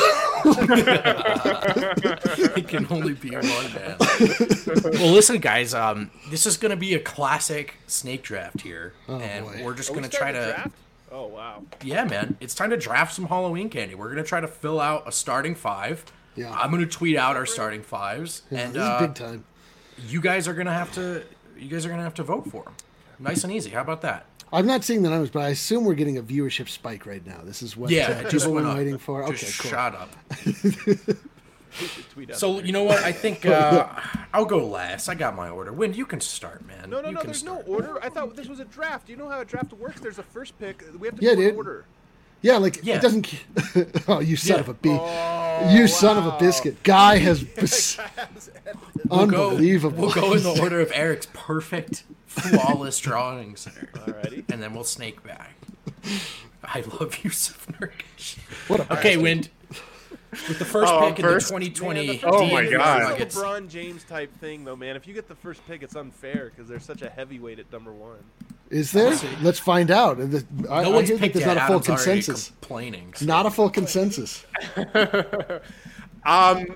Speaker 5: it can only be one man. Well, listen, guys. Um, this is going to be a classic snake draft here,
Speaker 4: Oh,
Speaker 5: and
Speaker 4: boy.
Speaker 5: we're just
Speaker 3: Are we
Speaker 5: going to
Speaker 3: starting
Speaker 5: try
Speaker 3: the
Speaker 5: to.
Speaker 3: draft? Oh wow.
Speaker 5: Yeah, man. It's time to draft some Halloween candy. We're going to try to fill out a starting five.
Speaker 4: Yeah.
Speaker 5: I'm going to tweet out our starting fives,
Speaker 4: Yeah,
Speaker 5: and
Speaker 4: this
Speaker 5: uh,
Speaker 4: is big time.
Speaker 5: you guys are going to have to. You guys are going to have to vote for them. Nice and easy. How about that?
Speaker 4: I'm not seeing the numbers, but I assume we're getting a viewership spike right now. This is what
Speaker 5: Yeah,
Speaker 4: uh,
Speaker 5: it just
Speaker 4: people
Speaker 5: went
Speaker 4: were
Speaker 5: up.
Speaker 4: waiting for. Okay,
Speaker 5: Just
Speaker 4: cool.
Speaker 5: shot up.
Speaker 3: We should tweet out
Speaker 5: So
Speaker 3: the-
Speaker 5: you know what? I think uh, I'll go last. I got my order. Wind, you can start, man.
Speaker 3: No, no,
Speaker 5: you
Speaker 3: no.
Speaker 5: can
Speaker 3: There's
Speaker 5: start.
Speaker 3: no order. I thought this was a draft. You know how a draft works? There's a first pick. We have to
Speaker 4: Yeah,
Speaker 3: do an
Speaker 4: dude.
Speaker 3: order.
Speaker 4: Yeah, like
Speaker 5: Yeah.
Speaker 4: it doesn't. Oh, you son
Speaker 5: Yeah.
Speaker 4: of a bee!
Speaker 3: Oh,
Speaker 4: you son of a
Speaker 3: wow.
Speaker 4: biscuit! Guy has
Speaker 5: We'll go-
Speaker 4: unbelievable.
Speaker 5: We'll go in the order of Eric's perfect, flawless drawings,
Speaker 3: Alrighty.
Speaker 5: and then we'll snake back. I love Yusuf Nurkic.
Speaker 4: What a
Speaker 5: Okay, Wind. With the first
Speaker 1: Oh,
Speaker 5: pick in
Speaker 1: first?
Speaker 5: the twenty twenty
Speaker 3: Man, the
Speaker 1: Oh
Speaker 3: first
Speaker 1: my
Speaker 3: pick
Speaker 1: God.
Speaker 3: is a
Speaker 5: Nuggets.
Speaker 3: LeBron James type thing, though, man. If you get the first pick, it's unfair because there's such a heavyweight at number one.
Speaker 4: Is there?
Speaker 5: see.
Speaker 4: Let's find out. And the- I,
Speaker 5: No
Speaker 4: I
Speaker 5: one's
Speaker 4: hear that
Speaker 5: picked
Speaker 4: there's
Speaker 5: yet.
Speaker 4: not a full
Speaker 5: Adam's already
Speaker 4: consensus.
Speaker 5: complaining. so-
Speaker 4: Not a full consensus.
Speaker 1: Um,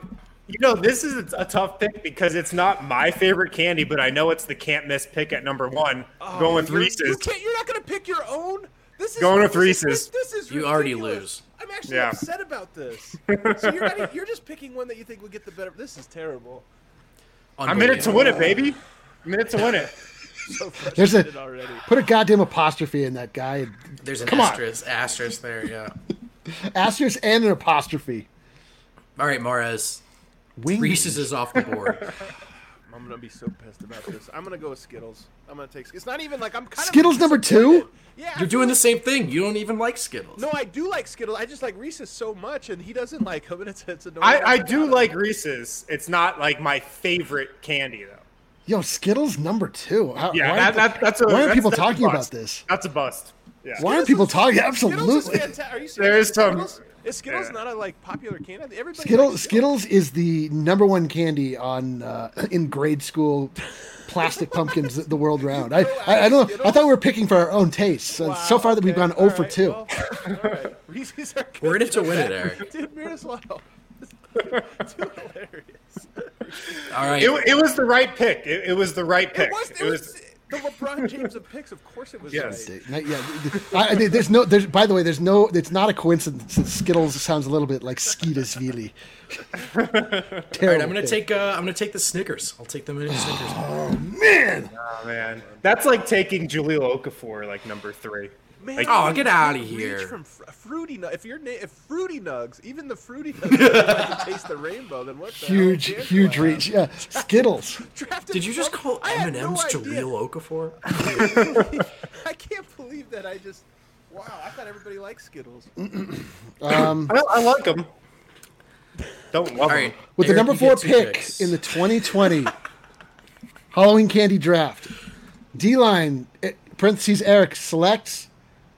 Speaker 1: You know, this is a tough pick because it's not my favorite candy, but I know it's the can't miss pick at number one.
Speaker 3: Oh,
Speaker 1: going with
Speaker 3: you're,
Speaker 1: Reese's.
Speaker 3: You can't, you're not going to pick your own? This is,
Speaker 1: Going with
Speaker 3: this is-
Speaker 1: Reese's.
Speaker 3: This, is
Speaker 5: You already
Speaker 3: ridiculous.
Speaker 5: lose.
Speaker 3: I'm actually
Speaker 1: Yeah.
Speaker 3: upset about this. So you're, not, you're just picking one that you think will get the better. This is terrible.
Speaker 1: I'm in it to win it, baby. I'm in it to win it.
Speaker 3: So
Speaker 4: There's
Speaker 3: frustrated
Speaker 4: a
Speaker 3: already.
Speaker 4: put a goddamn apostrophe in that guy.
Speaker 5: There's an
Speaker 4: Come on.
Speaker 5: asterisk, asterisk there, yeah.
Speaker 4: Asterisk and an apostrophe.
Speaker 5: All right, Mares.
Speaker 4: Wings.
Speaker 5: Reese's is off the board.
Speaker 3: I'm gonna be so pissed about this. I'm gonna go with Skittles. I'm gonna take. It's not even like I'm kind
Speaker 4: Skittles
Speaker 3: of
Speaker 4: number
Speaker 3: disappointed.
Speaker 4: two?
Speaker 3: Yeah, I
Speaker 5: You're
Speaker 3: feel
Speaker 5: doing the
Speaker 3: like-
Speaker 5: same thing. You don't even like Skittles.
Speaker 3: No, I do like Skittles. I just like Reese's so much, and he doesn't like them. And it's it's annoying.
Speaker 1: I, I do
Speaker 3: forgot
Speaker 1: like
Speaker 3: about it.
Speaker 1: Reese's. It's not like my favorite candy, though.
Speaker 4: Yo, Skittles number two. How,
Speaker 1: Yeah,
Speaker 4: why
Speaker 1: that,
Speaker 4: aren't,
Speaker 1: that, that's a.
Speaker 4: why aren't
Speaker 1: that's,
Speaker 4: people
Speaker 1: that's a
Speaker 4: talking about
Speaker 1: bust.
Speaker 4: this?
Speaker 1: That's a bust. Yeah.
Speaker 4: Why aren't people talking?
Speaker 3: Skittles is
Speaker 4: Absolutely.
Speaker 3: fantastic. Are you serious?
Speaker 1: There is some-
Speaker 3: Skittles? Is Skittles
Speaker 1: yeah.
Speaker 3: not a like popular candy? Everybody
Speaker 4: Skittles
Speaker 3: likes
Speaker 4: Skittles is the number one candy on uh, in grade school plastic pumpkins the world round. I, I, I don't know. I thought we were picking for our own tastes. So,
Speaker 3: Wow,
Speaker 4: so far that we've
Speaker 3: okay.
Speaker 4: gone zero for
Speaker 3: All
Speaker 4: two.
Speaker 3: right, well, all right. Reese's are good.
Speaker 5: We're in it to win it, Eric.
Speaker 3: Dude, Miroslav. Too hilarious.
Speaker 5: All right.
Speaker 1: It, it was the right pick. It, it was the right pick.
Speaker 3: It was, it was the LeBron James of picks. Of course it was
Speaker 1: Yes.
Speaker 3: right.
Speaker 4: Not- yeah, I, I- there's no. There's by the way, there's no. It's not a coincidence that Skittles sounds a little bit like Skeetusvili.
Speaker 5: All right, I'm gonna take. Uh, I'm gonna take the Snickers. I'll take the mini Snickers.
Speaker 4: man.
Speaker 1: Oh, man. That's like taking Jaleel Okafor, like number three.
Speaker 3: Man,
Speaker 1: Like-
Speaker 5: Oh,
Speaker 3: you
Speaker 5: get
Speaker 3: can't
Speaker 5: outta
Speaker 3: reach
Speaker 5: here.
Speaker 3: From fr- fruity nug. If you're na- if fruity nugs, even the fruity nugs like to taste the rainbow, then what the
Speaker 4: Huge,
Speaker 3: hell chance
Speaker 4: huge
Speaker 3: do I have?
Speaker 4: reach. Yeah, Skittles.
Speaker 3: Drafted
Speaker 5: Did you just
Speaker 3: from-
Speaker 5: call
Speaker 3: I had
Speaker 5: M and M's
Speaker 3: no idea.
Speaker 5: Jaleel Okafor?
Speaker 3: I can't believe that I just. Wow, I thought everybody liked Skittles.
Speaker 4: Um,
Speaker 1: I, I like them. Don't love
Speaker 5: All
Speaker 1: them.
Speaker 5: right.
Speaker 4: with
Speaker 5: Eric,
Speaker 4: the number
Speaker 5: you
Speaker 4: four
Speaker 5: get two
Speaker 4: pick
Speaker 5: picks.
Speaker 4: in the twenty twenty Halloween candy draft, D line eh, parentheses Eric selects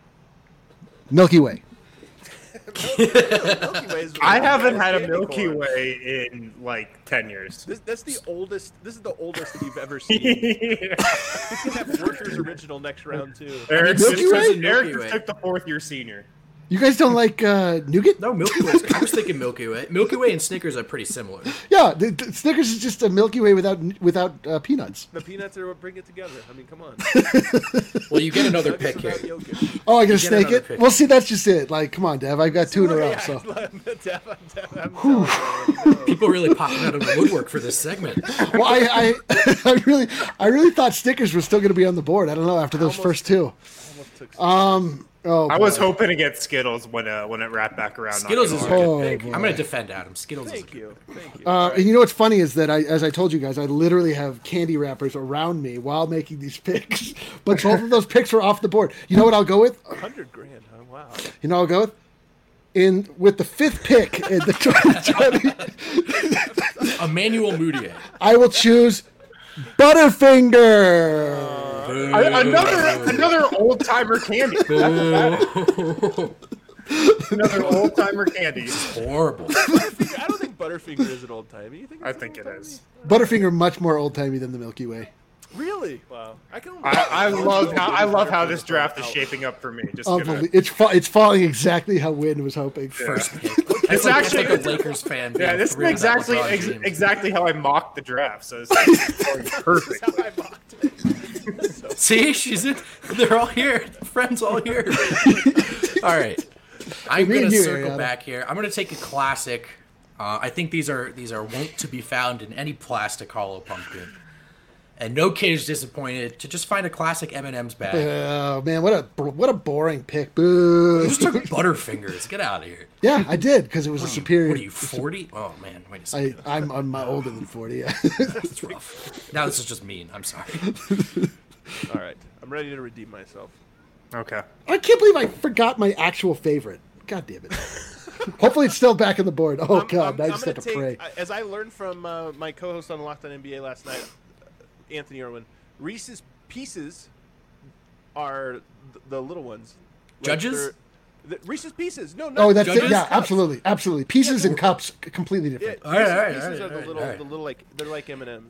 Speaker 4: Milky Way.
Speaker 3: Milky Way is
Speaker 1: I haven't had a
Speaker 3: candy
Speaker 1: Milky
Speaker 3: corn.
Speaker 1: Way in like ten years.
Speaker 3: This, that's the oldest. This is the oldest you've ever seen. You can have Workers Original next round too.
Speaker 1: Eric,
Speaker 4: Milky
Speaker 1: just,
Speaker 4: Way?
Speaker 1: Eric
Speaker 5: Milky
Speaker 1: just
Speaker 5: Way.
Speaker 1: took the fourth year senior.
Speaker 4: You guys don't like uh, nougat?
Speaker 5: No, Milky Way. I was thinking Milky Way. Milky Way and Snickers are pretty similar.
Speaker 4: Yeah, the, the Snickers is just a Milky Way without without uh, peanuts.
Speaker 3: The peanuts are what bring it together. I mean, come on.
Speaker 5: Well, you get another
Speaker 3: Nuggets
Speaker 5: pick here.
Speaker 3: without Jokic.
Speaker 4: Oh, I gotta
Speaker 5: get
Speaker 4: snake
Speaker 5: another
Speaker 4: it.
Speaker 5: pick.
Speaker 4: Well, see, that's just it. Like, come on, Dev. I've got two in a row.
Speaker 3: Yeah,
Speaker 4: So,
Speaker 3: I'm Dev, I'm Dev, I'm telling you, no.
Speaker 5: People really popping out of the woodwork for this segment.
Speaker 4: well, I, I, I really, I really thought Snickers was still going to be on the board. I don't know after those
Speaker 3: Almost-
Speaker 4: first two.
Speaker 3: Almost took
Speaker 4: Um, oh,
Speaker 1: I was
Speaker 4: boy.
Speaker 1: hoping to get Skittles when uh, when it wrapped back around. not
Speaker 5: Skittles is a
Speaker 1: gonna lie.
Speaker 5: good
Speaker 4: Oh,
Speaker 5: pick.
Speaker 4: boy.
Speaker 5: I'm going to defend Adam. Skittles is a
Speaker 3: Thank
Speaker 5: good
Speaker 3: you. Thank you.
Speaker 4: Uh,
Speaker 3: All right.
Speaker 4: and you know what's funny is that I, as I told you guys, I literally have candy wrappers around me while making these picks. But both of those picks were off the board. You know what I'll go with?
Speaker 3: one hundred grand. Huh? Wow.
Speaker 4: You know what I'll go with? In with the fifth pick in the twenty twenty,
Speaker 5: Emmanuel Mudiay.
Speaker 4: I will choose Butterfinger.
Speaker 1: I- another another old timer candy. Another old timer candy.
Speaker 5: Horrible.
Speaker 3: Butterfinger, I don't think Butterfinger is an old timey. You think?
Speaker 1: I
Speaker 3: it's
Speaker 1: think
Speaker 3: an
Speaker 1: it
Speaker 3: old-timey?
Speaker 1: is.
Speaker 4: Butterfinger much more old timey than the Milky Way.
Speaker 3: Really? Wow. I can.
Speaker 1: I, I love how I love how this draft is shaping up for me. Just gonna,
Speaker 4: Unbelie- It's fa- it's falling exactly how Wynn was hoping.
Speaker 5: First pick.
Speaker 1: it's
Speaker 5: It's like,
Speaker 1: actually
Speaker 5: it's like a Lakers fan.
Speaker 1: yeah.
Speaker 5: being
Speaker 1: This is
Speaker 5: thrilled about
Speaker 1: exactly
Speaker 5: LeBron
Speaker 1: ex-
Speaker 5: James.
Speaker 1: exactly how I mocked the draft. So it's like, perfect.
Speaker 3: How I mocked it.
Speaker 5: See, she's in. They're all here. The friends all here. All right. I'm
Speaker 4: Me
Speaker 5: gonna
Speaker 4: and you,
Speaker 5: circle
Speaker 4: Ariana.
Speaker 5: back here. I'm gonna take a classic. Uh, I think these are these are wont to be found in any plastic hollow pumpkin. And no kid is disappointed to just find a classic M and M's bag.
Speaker 4: Oh man, what a what a boring pick. Boo.
Speaker 5: You just took Butterfingers. Get out of here.
Speaker 4: Yeah, I did because it was a superior.
Speaker 5: What are you, forty? Oh man, wait a second.
Speaker 4: I, I'm I'm uh, older than forty. Yeah.
Speaker 5: That's rough. Now this is just mean. I'm sorry.
Speaker 3: All right. I'm ready to redeem myself.
Speaker 1: Okay.
Speaker 4: I can't believe I forgot my actual favorite. God damn it. Hopefully it's still back on the board. Oh
Speaker 3: I'm-
Speaker 4: god,
Speaker 3: I'm-
Speaker 4: I
Speaker 3: I'm
Speaker 4: just
Speaker 3: gonna
Speaker 4: have to
Speaker 3: take-
Speaker 4: pray.
Speaker 3: As I learned from uh, my co-host on Locked On N B A last night, Anthony Irwin, Reese's Pieces are th- the little ones. Like
Speaker 5: Judges?
Speaker 3: they're- the- Reese's Pieces. No, no.
Speaker 4: Oh, that's it.
Speaker 5: Judges?
Speaker 4: Yeah,
Speaker 3: Cups.
Speaker 4: absolutely, absolutely. Pieces
Speaker 3: Yeah,
Speaker 4: and cups, c- completely
Speaker 3: Yeah,
Speaker 4: different.
Speaker 5: All right,
Speaker 3: Reese's
Speaker 5: all right,
Speaker 3: Pieces
Speaker 5: all right,
Speaker 3: are the
Speaker 5: all right,
Speaker 3: little,
Speaker 5: all right.
Speaker 3: the little like they're like M and M's.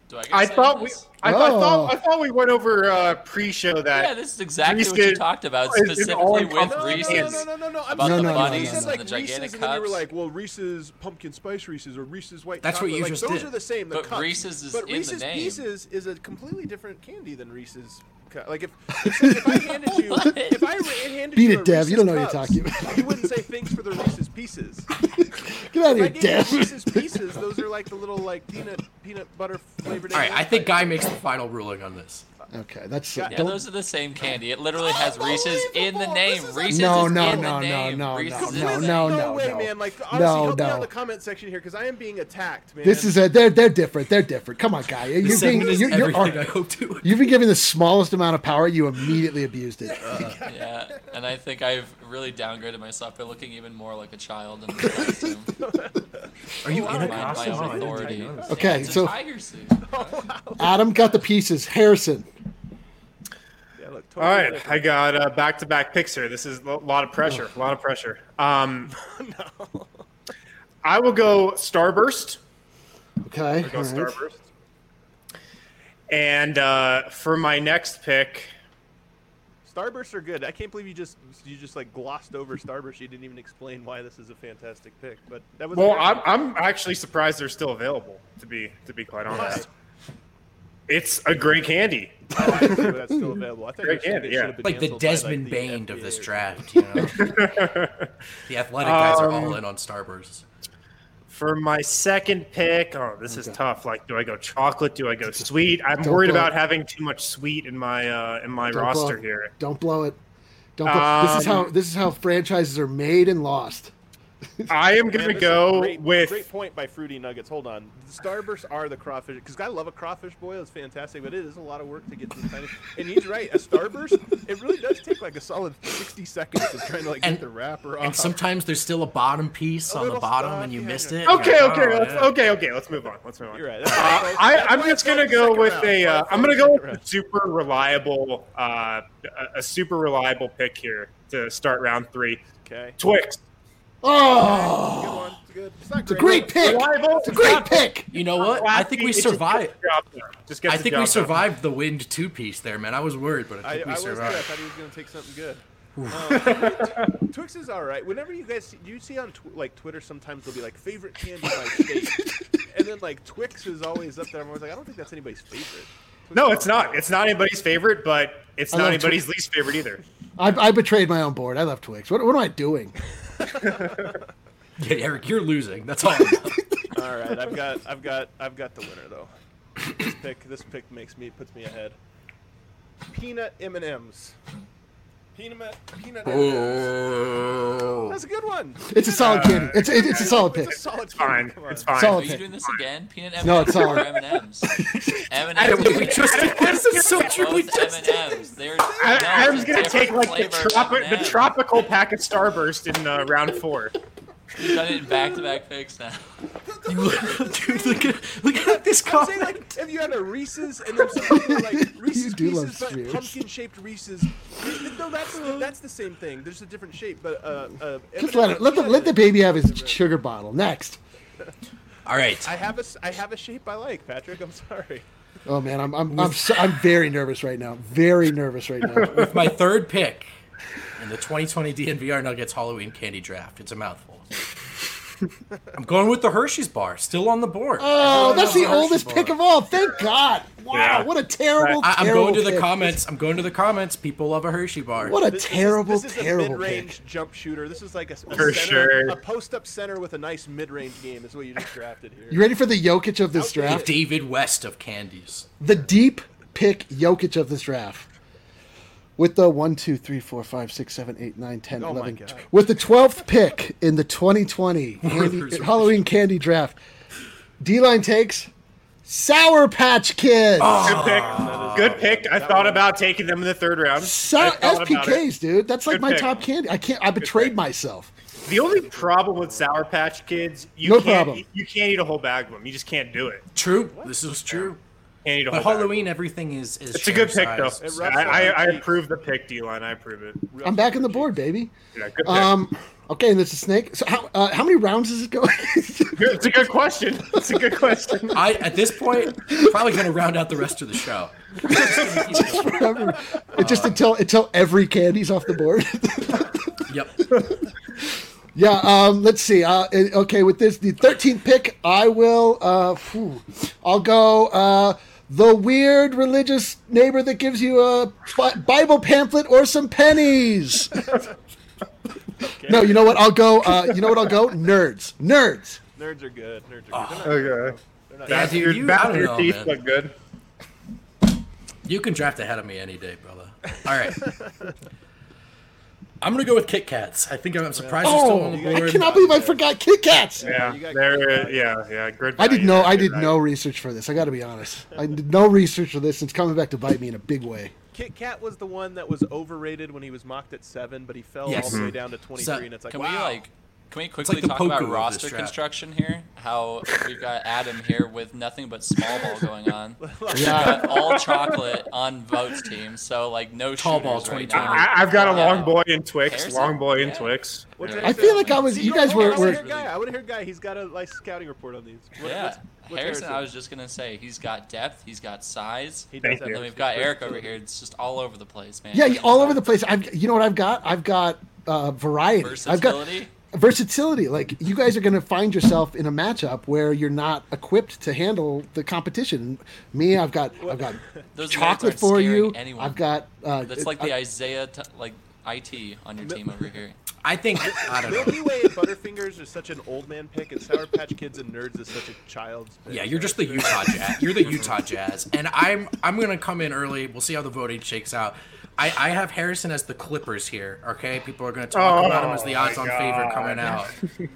Speaker 6: Do I get
Speaker 1: I
Speaker 6: to say
Speaker 1: thought we,
Speaker 6: this?
Speaker 1: I, thought, I
Speaker 4: Oh.
Speaker 1: thought, I thought we went over uh, pre-show that.
Speaker 6: Yeah, this is exactly what
Speaker 1: Reese's
Speaker 6: you talked about,
Speaker 1: is an
Speaker 6: specifically with
Speaker 1: all-encompassing
Speaker 3: No,
Speaker 6: Reese's.
Speaker 3: no, no, no, no, no. I'm
Speaker 6: About
Speaker 3: saying,
Speaker 4: the
Speaker 3: like,
Speaker 4: bunnies
Speaker 3: you
Speaker 4: and
Speaker 3: said,
Speaker 6: the
Speaker 3: like,
Speaker 6: gigantic
Speaker 3: Reese's, and then you were
Speaker 6: cups.
Speaker 3: like, well, Reese's pumpkin spice Reese's or Reese's white
Speaker 5: That's what
Speaker 3: chocolate.
Speaker 5: you
Speaker 3: like,
Speaker 5: just
Speaker 3: those
Speaker 5: did.
Speaker 3: are the same. The
Speaker 6: But
Speaker 3: cups.
Speaker 6: Reese's is
Speaker 3: but
Speaker 6: in the
Speaker 3: Reese's
Speaker 6: name.
Speaker 3: Pieces is a completely different candy than Reese's. cu- Like if if, if I handed you if I ra- handed
Speaker 4: Beat
Speaker 3: you
Speaker 4: it,
Speaker 3: a
Speaker 4: Dev. You don't know
Speaker 3: Reese's
Speaker 4: what you're
Speaker 3: Cups,
Speaker 4: talking about.
Speaker 3: you wouldn't say thanks for the Reese's Pieces.
Speaker 4: Get out of
Speaker 3: If I
Speaker 4: here,
Speaker 3: gave
Speaker 4: Dev.
Speaker 3: you Reese's Pieces, those are like the little like peanut peanut butter flavored.
Speaker 5: All right, I
Speaker 3: M&Ms
Speaker 5: think
Speaker 3: type
Speaker 5: Guy
Speaker 3: thing.
Speaker 5: makes the final ruling on this.
Speaker 4: Okay, that's
Speaker 3: Yeah,
Speaker 6: Yeah,
Speaker 4: don't-
Speaker 6: those are the same candy. It literally has Reese's in the
Speaker 3: Unbelievable.
Speaker 6: name.
Speaker 3: This is
Speaker 6: Reese's
Speaker 4: No,
Speaker 6: is
Speaker 4: no,
Speaker 6: in
Speaker 4: no,
Speaker 6: the name.
Speaker 4: no, no,
Speaker 6: Reese's
Speaker 4: no,
Speaker 6: is
Speaker 4: no,
Speaker 6: in the
Speaker 4: no,
Speaker 6: name.
Speaker 3: No way,
Speaker 4: no.
Speaker 3: man. Like honestly,
Speaker 4: No,
Speaker 3: help me out
Speaker 4: no.
Speaker 3: in the comment section here because I am being attacked, man.
Speaker 4: This is a they're they're different. They're different. Come on, Guy. You're being,
Speaker 5: Segment is
Speaker 4: you're, you're,
Speaker 5: everything I hope to.
Speaker 4: you've been given the smallest amount of power. You immediately abused it.
Speaker 6: Yeah, and I think I've really downgraded myself by looking even more like a child in this costume.
Speaker 5: Are you in a
Speaker 6: Mind my
Speaker 5: costume?
Speaker 6: own
Speaker 5: Oh, I didn't
Speaker 6: authority.
Speaker 5: take notice.
Speaker 4: Okay,
Speaker 6: Yeah, it's a
Speaker 4: so-
Speaker 6: tiger suit.
Speaker 4: Adam got the pieces. Harrison.
Speaker 3: Yeah, look,
Speaker 1: All
Speaker 3: totally
Speaker 1: right,
Speaker 3: different.
Speaker 1: I got uh, back-to-back picks here. This is a lot of pressure. A lot of pressure. Um, I will go Starburst.
Speaker 4: Okay.
Speaker 1: Go
Speaker 4: all right.
Speaker 1: Starburst. And uh, for my next pick,
Speaker 3: Starbursts are good. I can't believe you just you just like glossed over Starburst. You didn't even explain why this is a fantastic pick. But that was a
Speaker 1: well,
Speaker 3: good
Speaker 1: I'm,
Speaker 3: one.
Speaker 1: I'm actually surprised they're still available. To be to be quite honest, it's a great candy.
Speaker 3: Oh, I didn't know that's still available. I think
Speaker 1: Great
Speaker 3: it should-
Speaker 1: candy,
Speaker 3: it
Speaker 1: yeah.
Speaker 3: should have been
Speaker 5: Like the
Speaker 3: canceled by,
Speaker 5: Desmond
Speaker 3: the
Speaker 5: Bain
Speaker 3: F
Speaker 5: of
Speaker 3: D A
Speaker 5: this
Speaker 3: or
Speaker 5: draft, you know. The athletic guys are all
Speaker 1: Um,
Speaker 5: in on Starbursts.
Speaker 1: For my second pick, oh, this is tough. Like, do I go chocolate? Do I go sweet? I'm
Speaker 4: Don't
Speaker 1: worried
Speaker 4: blow
Speaker 1: about
Speaker 4: it.
Speaker 1: having too much sweet in my uh, in my
Speaker 4: Don't blow
Speaker 1: roster
Speaker 4: it.
Speaker 1: here.
Speaker 4: Don't blow it. Don't. Blow. this is how
Speaker 1: Um,
Speaker 4: this is how franchises are made and lost.
Speaker 1: I am
Speaker 3: Man,
Speaker 1: gonna
Speaker 3: this is
Speaker 1: go
Speaker 3: great,
Speaker 1: with
Speaker 3: great point by Fruity Nuggets. Hold on, the Starbursts are the crawfish because I love a crawfish boil. It's fantastic, but it is a lot of work to get to the tiny. And he's right, a Starburst it really does take like a solid sixty seconds of trying to like
Speaker 5: And-
Speaker 3: get the wrapper off.
Speaker 5: And sometimes there's still a bottom piece
Speaker 3: A
Speaker 5: on the
Speaker 3: little
Speaker 5: bottom
Speaker 3: stuff,
Speaker 5: and you
Speaker 3: yeah,
Speaker 5: missed
Speaker 3: yeah.
Speaker 5: it.
Speaker 1: okay,
Speaker 5: You're
Speaker 1: okay,
Speaker 5: like, oh,
Speaker 1: let's,
Speaker 5: yeah.
Speaker 1: okay, okay. Let's move on. Let's move on.
Speaker 3: You're right. That's
Speaker 1: Uh,
Speaker 3: why folks-
Speaker 1: I,
Speaker 3: that's
Speaker 1: I'm
Speaker 3: why
Speaker 1: just
Speaker 3: folks
Speaker 1: gonna
Speaker 3: in
Speaker 1: go
Speaker 3: second
Speaker 1: with
Speaker 3: round.
Speaker 1: a. Uh,
Speaker 3: That's why
Speaker 1: I'm gonna
Speaker 3: folks
Speaker 1: go
Speaker 3: in
Speaker 1: with
Speaker 3: second
Speaker 1: a
Speaker 3: round.
Speaker 1: super reliable, uh, a- a super reliable pick here to start round three.
Speaker 3: Okay.
Speaker 1: Twix.
Speaker 4: Oh,
Speaker 3: Good one. It's good. It's not
Speaker 4: it's a great pick.
Speaker 1: Reliable.
Speaker 4: It's a great pick.
Speaker 5: You know what? I think we
Speaker 1: It just gets
Speaker 5: survived.
Speaker 1: the job done. Just gets
Speaker 5: I
Speaker 1: the
Speaker 5: think
Speaker 1: job
Speaker 5: we
Speaker 1: done.
Speaker 5: survived the wind two piece there, man. I was worried, but I
Speaker 3: I,
Speaker 5: think
Speaker 3: I
Speaker 5: we
Speaker 3: was good. I
Speaker 5: survived.
Speaker 3: thought he was going to take something good. Um, Twix is all right. Whenever you guys see, do you see on tw- like Twitter sometimes they'll be like favorite candy by state, and then like Twix is always up there. I'm always like, I don't think that's anybody's favorite. Twix
Speaker 1: No,
Speaker 3: is
Speaker 1: it's
Speaker 3: all
Speaker 1: not.
Speaker 3: right.
Speaker 1: It's not anybody's favorite, but it's
Speaker 4: I
Speaker 1: not
Speaker 4: love
Speaker 1: anybody's least favorite either.
Speaker 4: I, I betrayed my own board. I love Twix. What, what am I doing?
Speaker 5: Yeah, Eric, you're losing. That's all. I know.
Speaker 3: All right, I've got, I've got, I've got the winner though. This pick, this pick makes me puts me ahead. Peanut M and M's. Peanut, peanut M and M's.
Speaker 5: Oh.
Speaker 3: That's a good one.
Speaker 4: It's a solid candy. It's it, it's a solid
Speaker 3: It's
Speaker 4: pick.
Speaker 3: a solid
Speaker 1: It's fine.
Speaker 3: candy. Come on.
Speaker 1: It's fine.
Speaker 4: Solid
Speaker 6: Are you
Speaker 4: pick.
Speaker 6: doing this again? Peanut M and M's
Speaker 4: No, it's
Speaker 6: or
Speaker 4: solid.
Speaker 6: M and M's? M and
Speaker 1: Adam,
Speaker 6: M's.
Speaker 1: we
Speaker 5: just did this. It's so true. We
Speaker 6: M
Speaker 5: just
Speaker 6: and M's. There's
Speaker 1: I,
Speaker 6: no,
Speaker 1: I was
Speaker 6: it's a
Speaker 1: gonna take
Speaker 6: different
Speaker 1: like the,
Speaker 6: flavor of
Speaker 1: tropi- the
Speaker 6: M and M's.
Speaker 1: tropical pack of Starburst in uh, round four.
Speaker 6: You've done it in back-to-back picks now.
Speaker 5: Dude, look at look at this
Speaker 3: I'm saying,
Speaker 5: comment.
Speaker 3: like, if you had a Reese's and then something like Reese's
Speaker 4: do love
Speaker 3: Pieces, but
Speaker 4: spheres.
Speaker 3: pumpkin-shaped Reese's. No, that's that's the same thing. There's a different shape, but uh, uh,
Speaker 4: Just let it, let the let the baby have his sugar bottle. Next.
Speaker 5: All right.
Speaker 3: I have a s- I have a shape I like, Patrick. I'm sorry.
Speaker 4: Oh man, I'm I'm I'm, so, I'm very nervous right now. Very nervous right now.
Speaker 5: With my third pick in the twenty twenty D N V R Nuggets Halloween candy draft. It's a mouthful. I'm going with the Hershey's bar, still on the board.
Speaker 4: Oh, that's the
Speaker 5: Hershey
Speaker 4: oldest
Speaker 5: bar.
Speaker 4: pick of all. Thank God. Wow,
Speaker 1: Yeah.
Speaker 4: what a terrible,
Speaker 5: I, I'm
Speaker 4: terrible
Speaker 5: going to the
Speaker 4: pick.
Speaker 5: comments. I'm going to the comments. People love a Hershey bar.
Speaker 4: What a
Speaker 3: This,
Speaker 4: terrible,
Speaker 3: this is, this
Speaker 4: terrible
Speaker 3: is a mid-range
Speaker 4: pick.
Speaker 3: jump shooter. This is like a, a
Speaker 1: For
Speaker 3: center,
Speaker 1: sure.
Speaker 3: a post-up center with a nice mid-range game. Is what you just drafted here.
Speaker 4: You ready for the Jokic of this
Speaker 3: Outdated.
Speaker 4: draft?
Speaker 5: David West of candies.
Speaker 4: The deep pick Jokic of this draft. With the one, two, three, four, five, six, seven, eight, nine, ten,
Speaker 3: Oh my
Speaker 4: eleven.
Speaker 3: God.
Speaker 4: With the twelfth pick in the twenty twenty candy, Halloween candy draft, D-Line takes Sour Patch Kids.
Speaker 1: Good pick. Good pick. I thought about taking them in the third round.
Speaker 4: So-
Speaker 1: I thought
Speaker 4: S P
Speaker 1: about it.
Speaker 4: Ks, dude. That's like
Speaker 1: Good
Speaker 4: my
Speaker 1: pick.
Speaker 4: top candy. I can't. I betrayed myself.
Speaker 1: The only problem with Sour Patch Kids, you
Speaker 4: No
Speaker 1: can't
Speaker 4: problem.
Speaker 1: you can't eat a whole bag of them. You just can't do it.
Speaker 5: True. This is true.
Speaker 1: Candy to
Speaker 5: But
Speaker 1: hold back.
Speaker 5: Halloween, everything is is.
Speaker 1: It's a good pick, though.
Speaker 5: share-sized.
Speaker 3: It rubs
Speaker 1: I,
Speaker 3: off
Speaker 1: I,
Speaker 3: your
Speaker 1: I
Speaker 3: cheeks.
Speaker 1: approve the pick, D-Line. I approve it.
Speaker 4: I'm back on the board, baby.
Speaker 1: Yeah, good pick.
Speaker 4: Um, okay, and there's a snake. So how uh, how many rounds is it going?
Speaker 1: It's a good question. It's a good question.
Speaker 5: I at this point probably going to round out the rest of the show.
Speaker 4: Just until until every candy's off the board.
Speaker 5: Yep.
Speaker 4: Yeah, um, let's see. Uh, eh, okay, with this, the thirteenth pick, I will. Uh, whew, I'll go. Uh, the weird religious neighbor that gives you a Bi- Bible pamphlet or some pennies. No, you know what? I'll go. Uh, you know what? I'll go. Nerds. Nerds.
Speaker 3: Nerds are good. Nerds are good.
Speaker 1: Okay.
Speaker 3: They're not, they're not
Speaker 5: Yeah,
Speaker 1: Back
Speaker 5: dude,
Speaker 1: your,
Speaker 5: you-
Speaker 1: back
Speaker 5: I don't
Speaker 1: your
Speaker 5: know,
Speaker 1: teeth
Speaker 5: man.
Speaker 1: look good.
Speaker 5: You can draft ahead of me any day, brother. All right. I'm gonna go with Kit Kats. I think I'm surprised you're still
Speaker 4: Oh,
Speaker 5: on the board.
Speaker 4: I cannot believe I forgot Kit Kats.
Speaker 1: Yeah,
Speaker 3: you got
Speaker 1: there.
Speaker 3: good
Speaker 1: Yeah, yeah. Good.
Speaker 4: I did
Speaker 1: value
Speaker 4: no.
Speaker 1: there,
Speaker 4: I
Speaker 1: good
Speaker 4: did
Speaker 1: value.
Speaker 4: no research for this. I got to be honest. I did no research for this. It's coming back to bite me in a big way.
Speaker 3: Kit Kat was the one that was overrated when he was mocked at seven, but he fell
Speaker 5: Yes.
Speaker 3: all the way down to twenty-three,
Speaker 5: So,
Speaker 3: and it's like,
Speaker 6: Can
Speaker 3: wow.
Speaker 6: we like? Can we quickly
Speaker 5: like the
Speaker 6: talk
Speaker 5: Poku
Speaker 6: about
Speaker 5: of this
Speaker 6: roster
Speaker 5: draft.
Speaker 6: construction here? How we've got Adam here with nothing but small ball going on. We've
Speaker 4: Yeah.
Speaker 6: got all chocolate on Vote's team, so like no
Speaker 5: Tall ball
Speaker 6: shooters right
Speaker 5: twenty twenty.
Speaker 6: now.
Speaker 1: I, I've got a
Speaker 6: Yeah.
Speaker 1: long boy in Twix.
Speaker 6: Harrison?
Speaker 1: Long boy in
Speaker 6: Yeah.
Speaker 1: Twix.
Speaker 3: What's
Speaker 6: Yeah.
Speaker 3: your
Speaker 4: I feel like I was.
Speaker 3: See,
Speaker 4: You
Speaker 3: no,
Speaker 4: guys
Speaker 3: hold on,
Speaker 4: were.
Speaker 3: I want to
Speaker 4: were
Speaker 3: hear Guy. I want to hear Guy. He's got a nice scouting report on these. What-
Speaker 6: Yeah,
Speaker 3: what's- what's
Speaker 6: Harrison, I was just gonna say he's got depth, he's got size,
Speaker 3: He does
Speaker 1: Thank
Speaker 3: have
Speaker 1: you.
Speaker 6: and then
Speaker 3: a
Speaker 6: we've got
Speaker 3: great
Speaker 6: Eric over
Speaker 3: versatility.
Speaker 6: here. It's just all over the place, man.
Speaker 4: Yeah, all over the place. I've. You know what I've got? I've got uh, variety. I've got
Speaker 6: Versatility.
Speaker 4: versatility. Like you guys are going to find yourself in a matchup where you're not equipped to handle the competition. Me, I've got. I've got
Speaker 6: Those nerds
Speaker 4: chocolate
Speaker 6: aren't
Speaker 4: for
Speaker 6: scaring
Speaker 4: you.
Speaker 6: anyone.
Speaker 4: I've got. Uh,
Speaker 6: That's like the
Speaker 4: I-
Speaker 6: Isaiah, t- like I T on your team over here.
Speaker 5: I think I don't know.
Speaker 3: Milky Way and Butterfingers is such an old man pick, and Sour Patch Kids and Nerds is such a child's pick.
Speaker 5: Yeah, you're just the Utah Jazz. You're the Utah Jazz, and I'm I'm gonna come in early. We'll see how the voting shakes out. I, I have Harrison as the Clippers here. Okay, people are gonna talk
Speaker 1: Oh,
Speaker 5: about him as the
Speaker 1: my
Speaker 5: odds-on favorite
Speaker 1: God.
Speaker 5: coming out.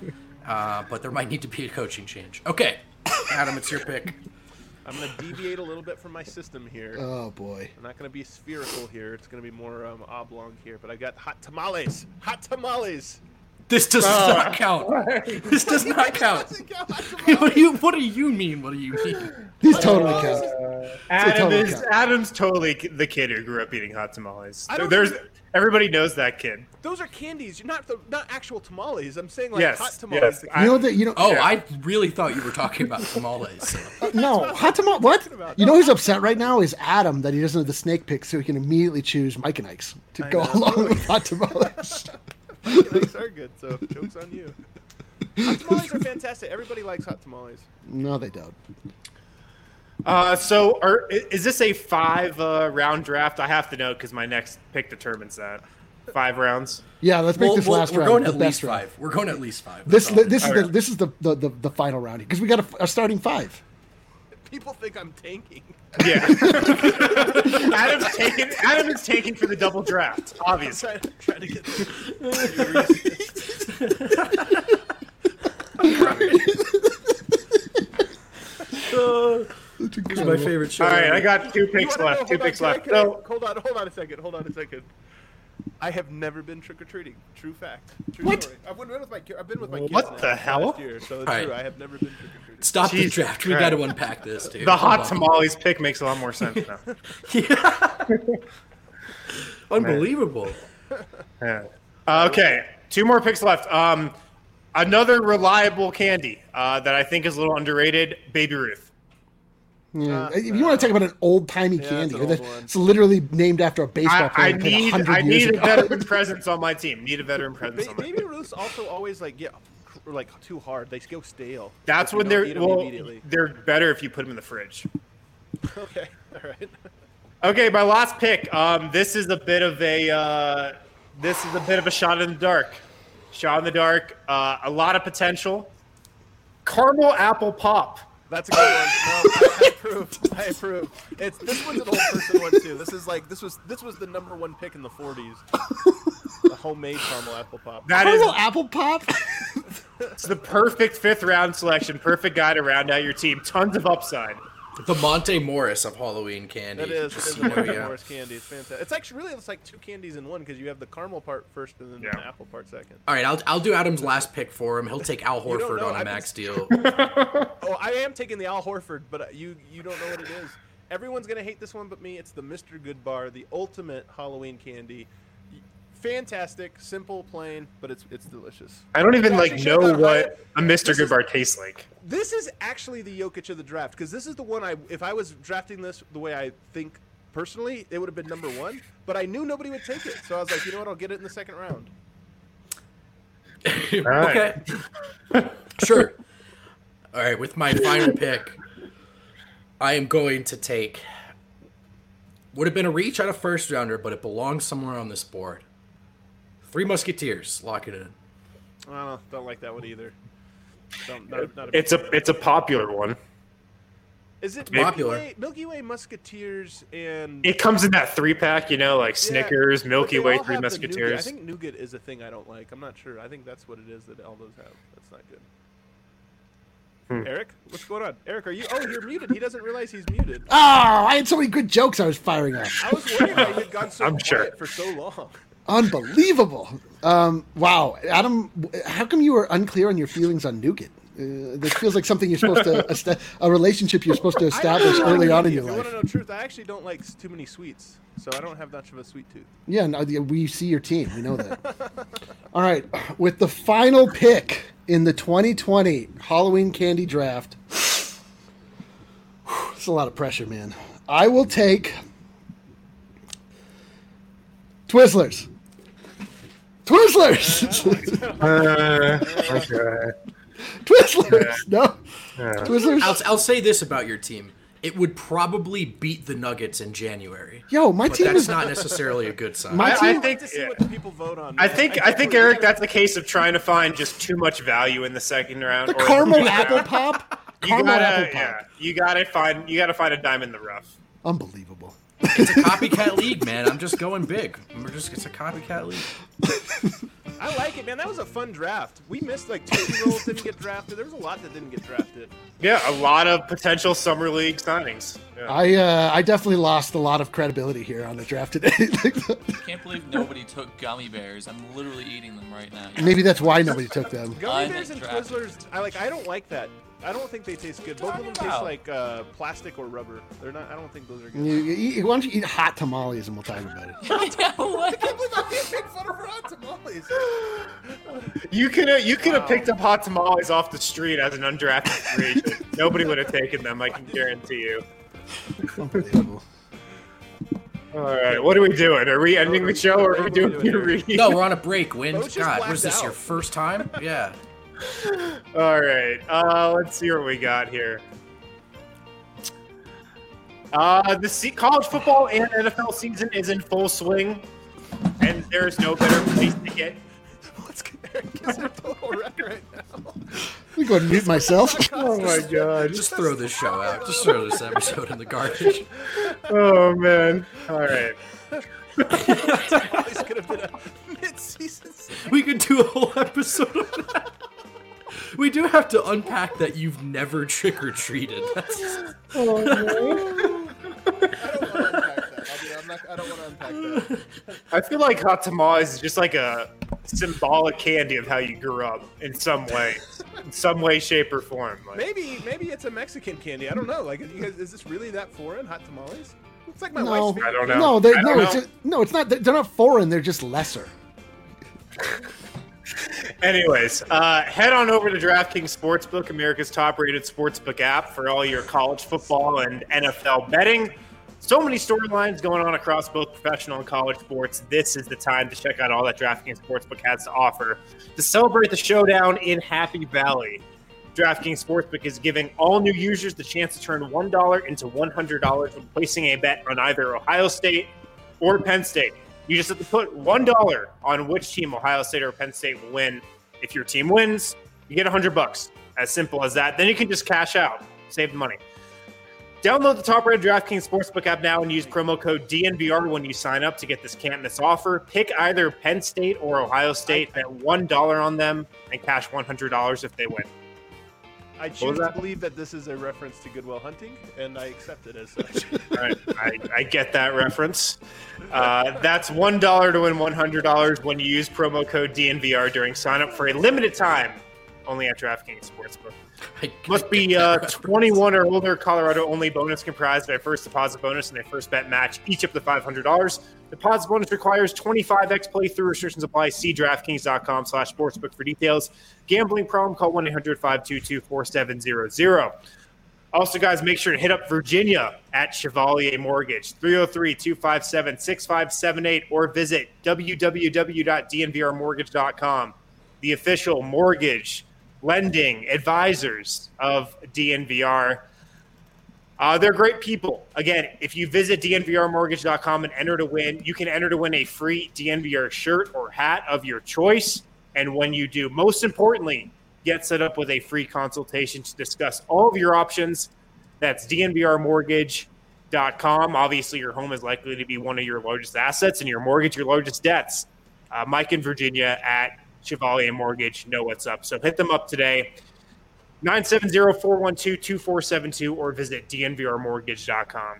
Speaker 5: Uh, but there might need to be a coaching change. Okay, Adam, it's your pick.
Speaker 3: I'm gonna deviate a little bit from my system here.
Speaker 4: oh boy.
Speaker 3: I'm not gonna be spherical here. It's gonna be more um, oblong here. But I got hot tamales. Hot tamales.
Speaker 5: This does not count. This does not count. What do you What do you mean? What do you mean?
Speaker 4: These totally count.
Speaker 1: Adam
Speaker 4: totally
Speaker 1: is
Speaker 4: count.
Speaker 1: Adam's totally the kid who grew up eating hot tamales.
Speaker 3: I don't
Speaker 1: There's
Speaker 3: even-
Speaker 1: everybody knows that kid.
Speaker 3: Those are candies. You're not the, not actual tamales. I'm saying like
Speaker 1: Yes,
Speaker 3: hot tamales.
Speaker 1: yes.
Speaker 4: You know that you know.
Speaker 5: Oh,
Speaker 1: Yeah.
Speaker 5: I really thought you were talking about tamales.
Speaker 4: No, hot tamale. What?
Speaker 3: about.
Speaker 4: You know who's upset right now is Adam that he doesn't have the snake pick, so he can immediately choose Mike and Ike's to
Speaker 3: I
Speaker 4: go
Speaker 3: know.
Speaker 4: along with hot tamales.
Speaker 3: Tamales are good, so joke's on you. Hot tamales are fantastic. Everybody likes hot tamales.
Speaker 4: No, they don't.
Speaker 1: Uh, so are, i- is this a five uh, round draft? I have to know because my next pick determines that. Five rounds.
Speaker 4: Yeah, let's make
Speaker 5: Well,
Speaker 4: this
Speaker 5: well,
Speaker 4: last
Speaker 5: we're
Speaker 4: round
Speaker 5: going
Speaker 4: the
Speaker 5: at
Speaker 4: best
Speaker 5: least
Speaker 4: round.
Speaker 5: five. We're going at least five.
Speaker 4: This
Speaker 5: That's all.
Speaker 4: this is the
Speaker 1: Alright.
Speaker 4: this is the the, the, the final round because we got a, a starting five.
Speaker 3: People think I'm tanking.
Speaker 1: Yeah. Adam's taking. Adam is taking for the double draft. Obviously.
Speaker 3: Trying, trying to get.
Speaker 5: This is my favorite show.
Speaker 1: All right, I got two
Speaker 3: You
Speaker 1: picks
Speaker 3: wanna know-
Speaker 1: left. Two
Speaker 3: hold on,
Speaker 1: picks
Speaker 3: can I-
Speaker 1: left.
Speaker 3: can I-
Speaker 1: So
Speaker 3: hold on, hold on a second. Hold on a second. I have never been trick or treating. True fact. True
Speaker 4: What?
Speaker 3: story. I've been with my. ki- I've been with my kids.
Speaker 1: What
Speaker 3: now
Speaker 1: the
Speaker 3: for
Speaker 1: hell?
Speaker 3: Last year, so it's
Speaker 5: All right.
Speaker 3: true. I have never been trick or treating.
Speaker 5: Stop the
Speaker 1: Jesus
Speaker 5: draft. We
Speaker 1: Christ.
Speaker 5: got to unpack this, dude.
Speaker 1: the hot
Speaker 5: Hold on.
Speaker 1: tamales pick makes a lot more sense now.
Speaker 5: Unbelievable.
Speaker 1: Yeah. Uh, okay, two more picks left. Um, another reliable candy uh, that I think is a little underrated. Baby Ruth.
Speaker 4: Yeah. if you want to talk about an old timey
Speaker 3: Yeah,
Speaker 4: candy,
Speaker 3: it's an
Speaker 4: that's
Speaker 3: old one.
Speaker 4: it's literally named after a baseball
Speaker 1: I,
Speaker 4: player
Speaker 1: I
Speaker 4: who played
Speaker 1: need.
Speaker 4: one hundred
Speaker 1: I
Speaker 4: years
Speaker 1: need a
Speaker 4: ago.
Speaker 1: veteran presence on my team. Need a veteran presence
Speaker 3: Ba-
Speaker 1: on my team.
Speaker 3: baby Ruths also always like get cr- like too hard. They go stale.
Speaker 1: That's
Speaker 3: If you
Speaker 1: when
Speaker 3: don't
Speaker 1: they're
Speaker 3: eat 'em
Speaker 1: well.
Speaker 3: immediately.
Speaker 1: They're better if you put them in the fridge.
Speaker 3: Okay. All right.
Speaker 1: Okay, my last pick. Um, this is a bit of a uh, this is a bit of a shot in the dark. Shot in the dark. Uh, a lot of potential. Caramel apple pop.
Speaker 3: That's a good one. No, I, I approve. I approve. It's this one's an old person one too. This is like this was this was the number one pick in the forties. The homemade caramel apple pop.
Speaker 1: That is
Speaker 4: Caramel apple pop.
Speaker 1: it's the perfect fifth round selection. Perfect guy to round out your team. Tons of upside.
Speaker 5: The Monte Morris of Halloween candy.
Speaker 3: It is.
Speaker 5: Just
Speaker 3: It's
Speaker 5: so you know,
Speaker 3: Monte
Speaker 5: yeah.
Speaker 3: Morris candy. It's fantastic. It's actually really it's like two candies in one because you have the caramel part first and then
Speaker 1: Yeah.
Speaker 3: the apple part second.
Speaker 5: All right, I'll, I'll do Adam's last pick for him. He'll take Al
Speaker 3: You don't
Speaker 5: Horford
Speaker 3: know,
Speaker 5: on a
Speaker 3: I've
Speaker 5: max
Speaker 3: been-
Speaker 5: deal.
Speaker 3: Oh, I am taking the Al Horford, but you you don't know what it is. Everyone's gonna hate this one but me. It's the Mister Good Bar, the ultimate Halloween candy. Fantastic, simple, plain, but it's it's delicious.
Speaker 1: I don't even
Speaker 3: Josh,
Speaker 1: like
Speaker 3: you
Speaker 1: know
Speaker 3: should not
Speaker 1: what
Speaker 3: hide-
Speaker 1: a Mister
Speaker 3: This
Speaker 1: Good
Speaker 3: is-
Speaker 1: Bar tastes like.
Speaker 3: This is actually the Jokic of the draft because this is the one I. If I was drafting this the way I think personally, it would have been number one. But I knew nobody would take it, so I was like, you know what? I'll get it in the second round.
Speaker 5: Okay. Sure. All right, with my final pick, I am going to take. Would have been a reach on a first rounder, but it belongs somewhere on this board. Three Musketeers. Lock it in.
Speaker 3: I don't, don't like that one either. Don't, not, not a
Speaker 1: It's a it's a popular one.
Speaker 3: Is it Milky
Speaker 5: Popular.
Speaker 3: Way, Milky Way Musketeers and
Speaker 1: It comes in that three pack, you know, like
Speaker 3: Yeah,
Speaker 1: Snickers,
Speaker 3: but
Speaker 1: Milky
Speaker 3: they
Speaker 1: Way,
Speaker 3: all
Speaker 1: Three
Speaker 3: have the nougat. I
Speaker 1: Musketeers.
Speaker 3: think nougat is a thing I don't like. I'm not sure. I think that's what it is that all those have. That's not good.
Speaker 1: Hmm.
Speaker 3: Eric, what's going on? Eric, are you? Oh, you're muted. He doesn't realize he's muted.
Speaker 4: Oh, I had so many good jokes I was firing up.
Speaker 3: I was wondering why you had gone so
Speaker 1: I'm
Speaker 3: quiet
Speaker 1: sure.
Speaker 3: for so long.
Speaker 4: Unbelievable. Um, wow. Adam, how come you were unclear on your feelings on nougat? Uh, this feels like something you're supposed to, est- a relationship you're supposed to establish
Speaker 3: I don't
Speaker 4: early
Speaker 3: like
Speaker 4: on in
Speaker 3: candy.
Speaker 4: your
Speaker 3: If you want
Speaker 4: life.
Speaker 3: to know the truth, I actually don't like s- too many sweets, so I don't have much of a sweet tooth.
Speaker 4: Yeah, no, the- we see your team. We know that. All right. With the final pick in the twenty twenty Halloween candy draft, it's a lot of pressure, man. I will take Twizzlers. Twizzlers!
Speaker 1: Uh, okay.
Speaker 4: Twizzlers! No. Twizzlers?
Speaker 5: I'll, I'll say this about your team. It would probably beat the Nuggets in January.
Speaker 4: Yo, my
Speaker 5: But
Speaker 4: team
Speaker 5: that's
Speaker 4: is
Speaker 5: not necessarily a good sign.
Speaker 4: My
Speaker 1: I, I
Speaker 4: team-
Speaker 1: think
Speaker 3: To see
Speaker 1: yeah.
Speaker 3: what the people vote on.
Speaker 1: I think I think Eric, that's a case of trying to find just too much value in the second round.
Speaker 4: the
Speaker 1: or in
Speaker 4: caramel
Speaker 1: first
Speaker 4: apple
Speaker 1: round.
Speaker 4: pop.
Speaker 1: You
Speaker 4: Caramel
Speaker 1: gotta,
Speaker 4: apple pop.
Speaker 1: yeah, you gotta find you gotta find a dime in the rough.
Speaker 4: Unbelievable.
Speaker 5: It's a copycat league, man. I'm just going big. We're just it's a copycat league.
Speaker 3: I like it, man. That was a fun draft. We missed like two-year-olds didn't get drafted. There was a lot that didn't get drafted.
Speaker 1: Yeah, a lot of potential summer league signings. Yeah.
Speaker 4: I uh, I definitely lost a lot of credibility here on the draft today.
Speaker 6: Can't believe nobody took gummy bears. I'm literally eating them right now.
Speaker 4: Maybe that's why nobody took them.
Speaker 3: Gummy
Speaker 6: I
Speaker 3: bears and
Speaker 6: think drafted.
Speaker 3: Twizzlers, I like. I don't like that. I don't think they taste good. Both of them
Speaker 6: Talking
Speaker 3: taste
Speaker 6: about?
Speaker 3: like uh, plastic or rubber. They're not. I don't think those are good.
Speaker 4: You, you eat, why don't you eat hot tamales and we'll talk about it.
Speaker 6: Yeah, what?
Speaker 1: You could have you could have picked up hot tamales off the street as an undrafted free agent. Nobody would have taken them. I can guarantee you.
Speaker 4: Unbelievable.
Speaker 1: All right, what are we doing? Are we ending the show or are we
Speaker 3: What are we
Speaker 1: doing
Speaker 3: doing
Speaker 1: your
Speaker 3: here?
Speaker 1: read?
Speaker 5: No, we're on a break, Win.
Speaker 3: Bo's just
Speaker 5: God,
Speaker 3: blacked
Speaker 5: was this
Speaker 3: out.
Speaker 5: your first time? Yeah.
Speaker 1: All right, uh, let's see what we got here. Uh, the se- college football and N F L season is in full swing, and there's no better place to get.
Speaker 3: Let's get Eric is a total wreck right now.
Speaker 4: We go and mute myself.
Speaker 1: Oh my god!
Speaker 5: Just throw this show out. Just throw this episode in the garbage.
Speaker 1: Oh man! All right.
Speaker 3: This could have been a mid-season.
Speaker 5: We could do a whole episode of that. We do have to unpack that you've never trick or treated.
Speaker 3: I don't want to unpack that. I'll be, I'm not, I don't want to unpack that.
Speaker 1: I feel like hot tamales is just like a symbolic candy of how you grew up in some way, in some way, shape, or form. Like,
Speaker 3: Maybe, maybe it's a Mexican candy. I don't know. Like, you guys, is this really that foreign? Hot tamales? It's like my
Speaker 4: No.
Speaker 3: wife's favorite.
Speaker 1: I don't know.
Speaker 4: No, they're,
Speaker 1: I
Speaker 4: no,
Speaker 1: don't
Speaker 4: it's
Speaker 1: know.
Speaker 4: just, no, it's not. They're not foreign. They're just lesser.
Speaker 1: Anyways, uh, head on over to DraftKings Sportsbook, America's top-rated sportsbook app for all your college football and N F L betting. So many storylines going on across both professional and college sports. This is the time to check out all that DraftKings Sportsbook has to offer to celebrate the showdown in Happy Valley. DraftKings Sportsbook is giving all new users the chance to turn one dollar into one hundred dollars when placing a bet on either Ohio State or Penn State. You just have to put one dollar on which team, Ohio State or Penn State, will win. If your team wins, you get one hundred bucks. As simple as that. Then you can just cash out, save the money. Download the top-rated DraftKings Sportsbook app now and use promo code D N V R when you sign up to get this can't-miss offer. Pick either Penn State or Ohio State, bet one dollar on them, and cash one hundred dollars if they win.
Speaker 3: I
Speaker 1: was
Speaker 3: choose to
Speaker 1: that?
Speaker 3: believe that this is a reference to Goodwill Hunting, and I accept it as such.
Speaker 1: All right, I, I get that reference. Uh, that's one dollar to win one hundred dollars when you use promo code D N V R during sign-up for a limited time only at DraftKings Sportsbook.
Speaker 5: I-
Speaker 1: Must be uh, twenty-one or older. Colorado only. Bonus comprised of a first deposit bonus and a first bet match, each up to five hundred dollars. Deposit bonus requires twenty-five x playthrough. Restrictions apply. See DraftKings.com slash sportsbook for details. Gambling problem? Call one eight hundred five two two four seven zero zero. Also, guys, make sure to hit up Virginia at Chevalier Mortgage, three oh three, two five seven, six five seven eight, or visit w w w dot d n v r mortgage dot com, the official mortgage lending advisors of D N V R. Uh, they're great people. Again, if you visit d n v r mortgage dot com and enter to win, you can enter to win a free D N V R shirt or hat of your choice. And when you do, most importantly, get set up with a free consultation to discuss all of your options. That's d n v r mortgage dot com. Obviously, your home is likely to be one of your largest assets and your mortgage your largest debts. Uh, Mike and Virginia at Chevalier Mortgage know what's up. So hit them up today, nine seven zero, four one two, two four seven two, or visit d n v r mortgage dot com.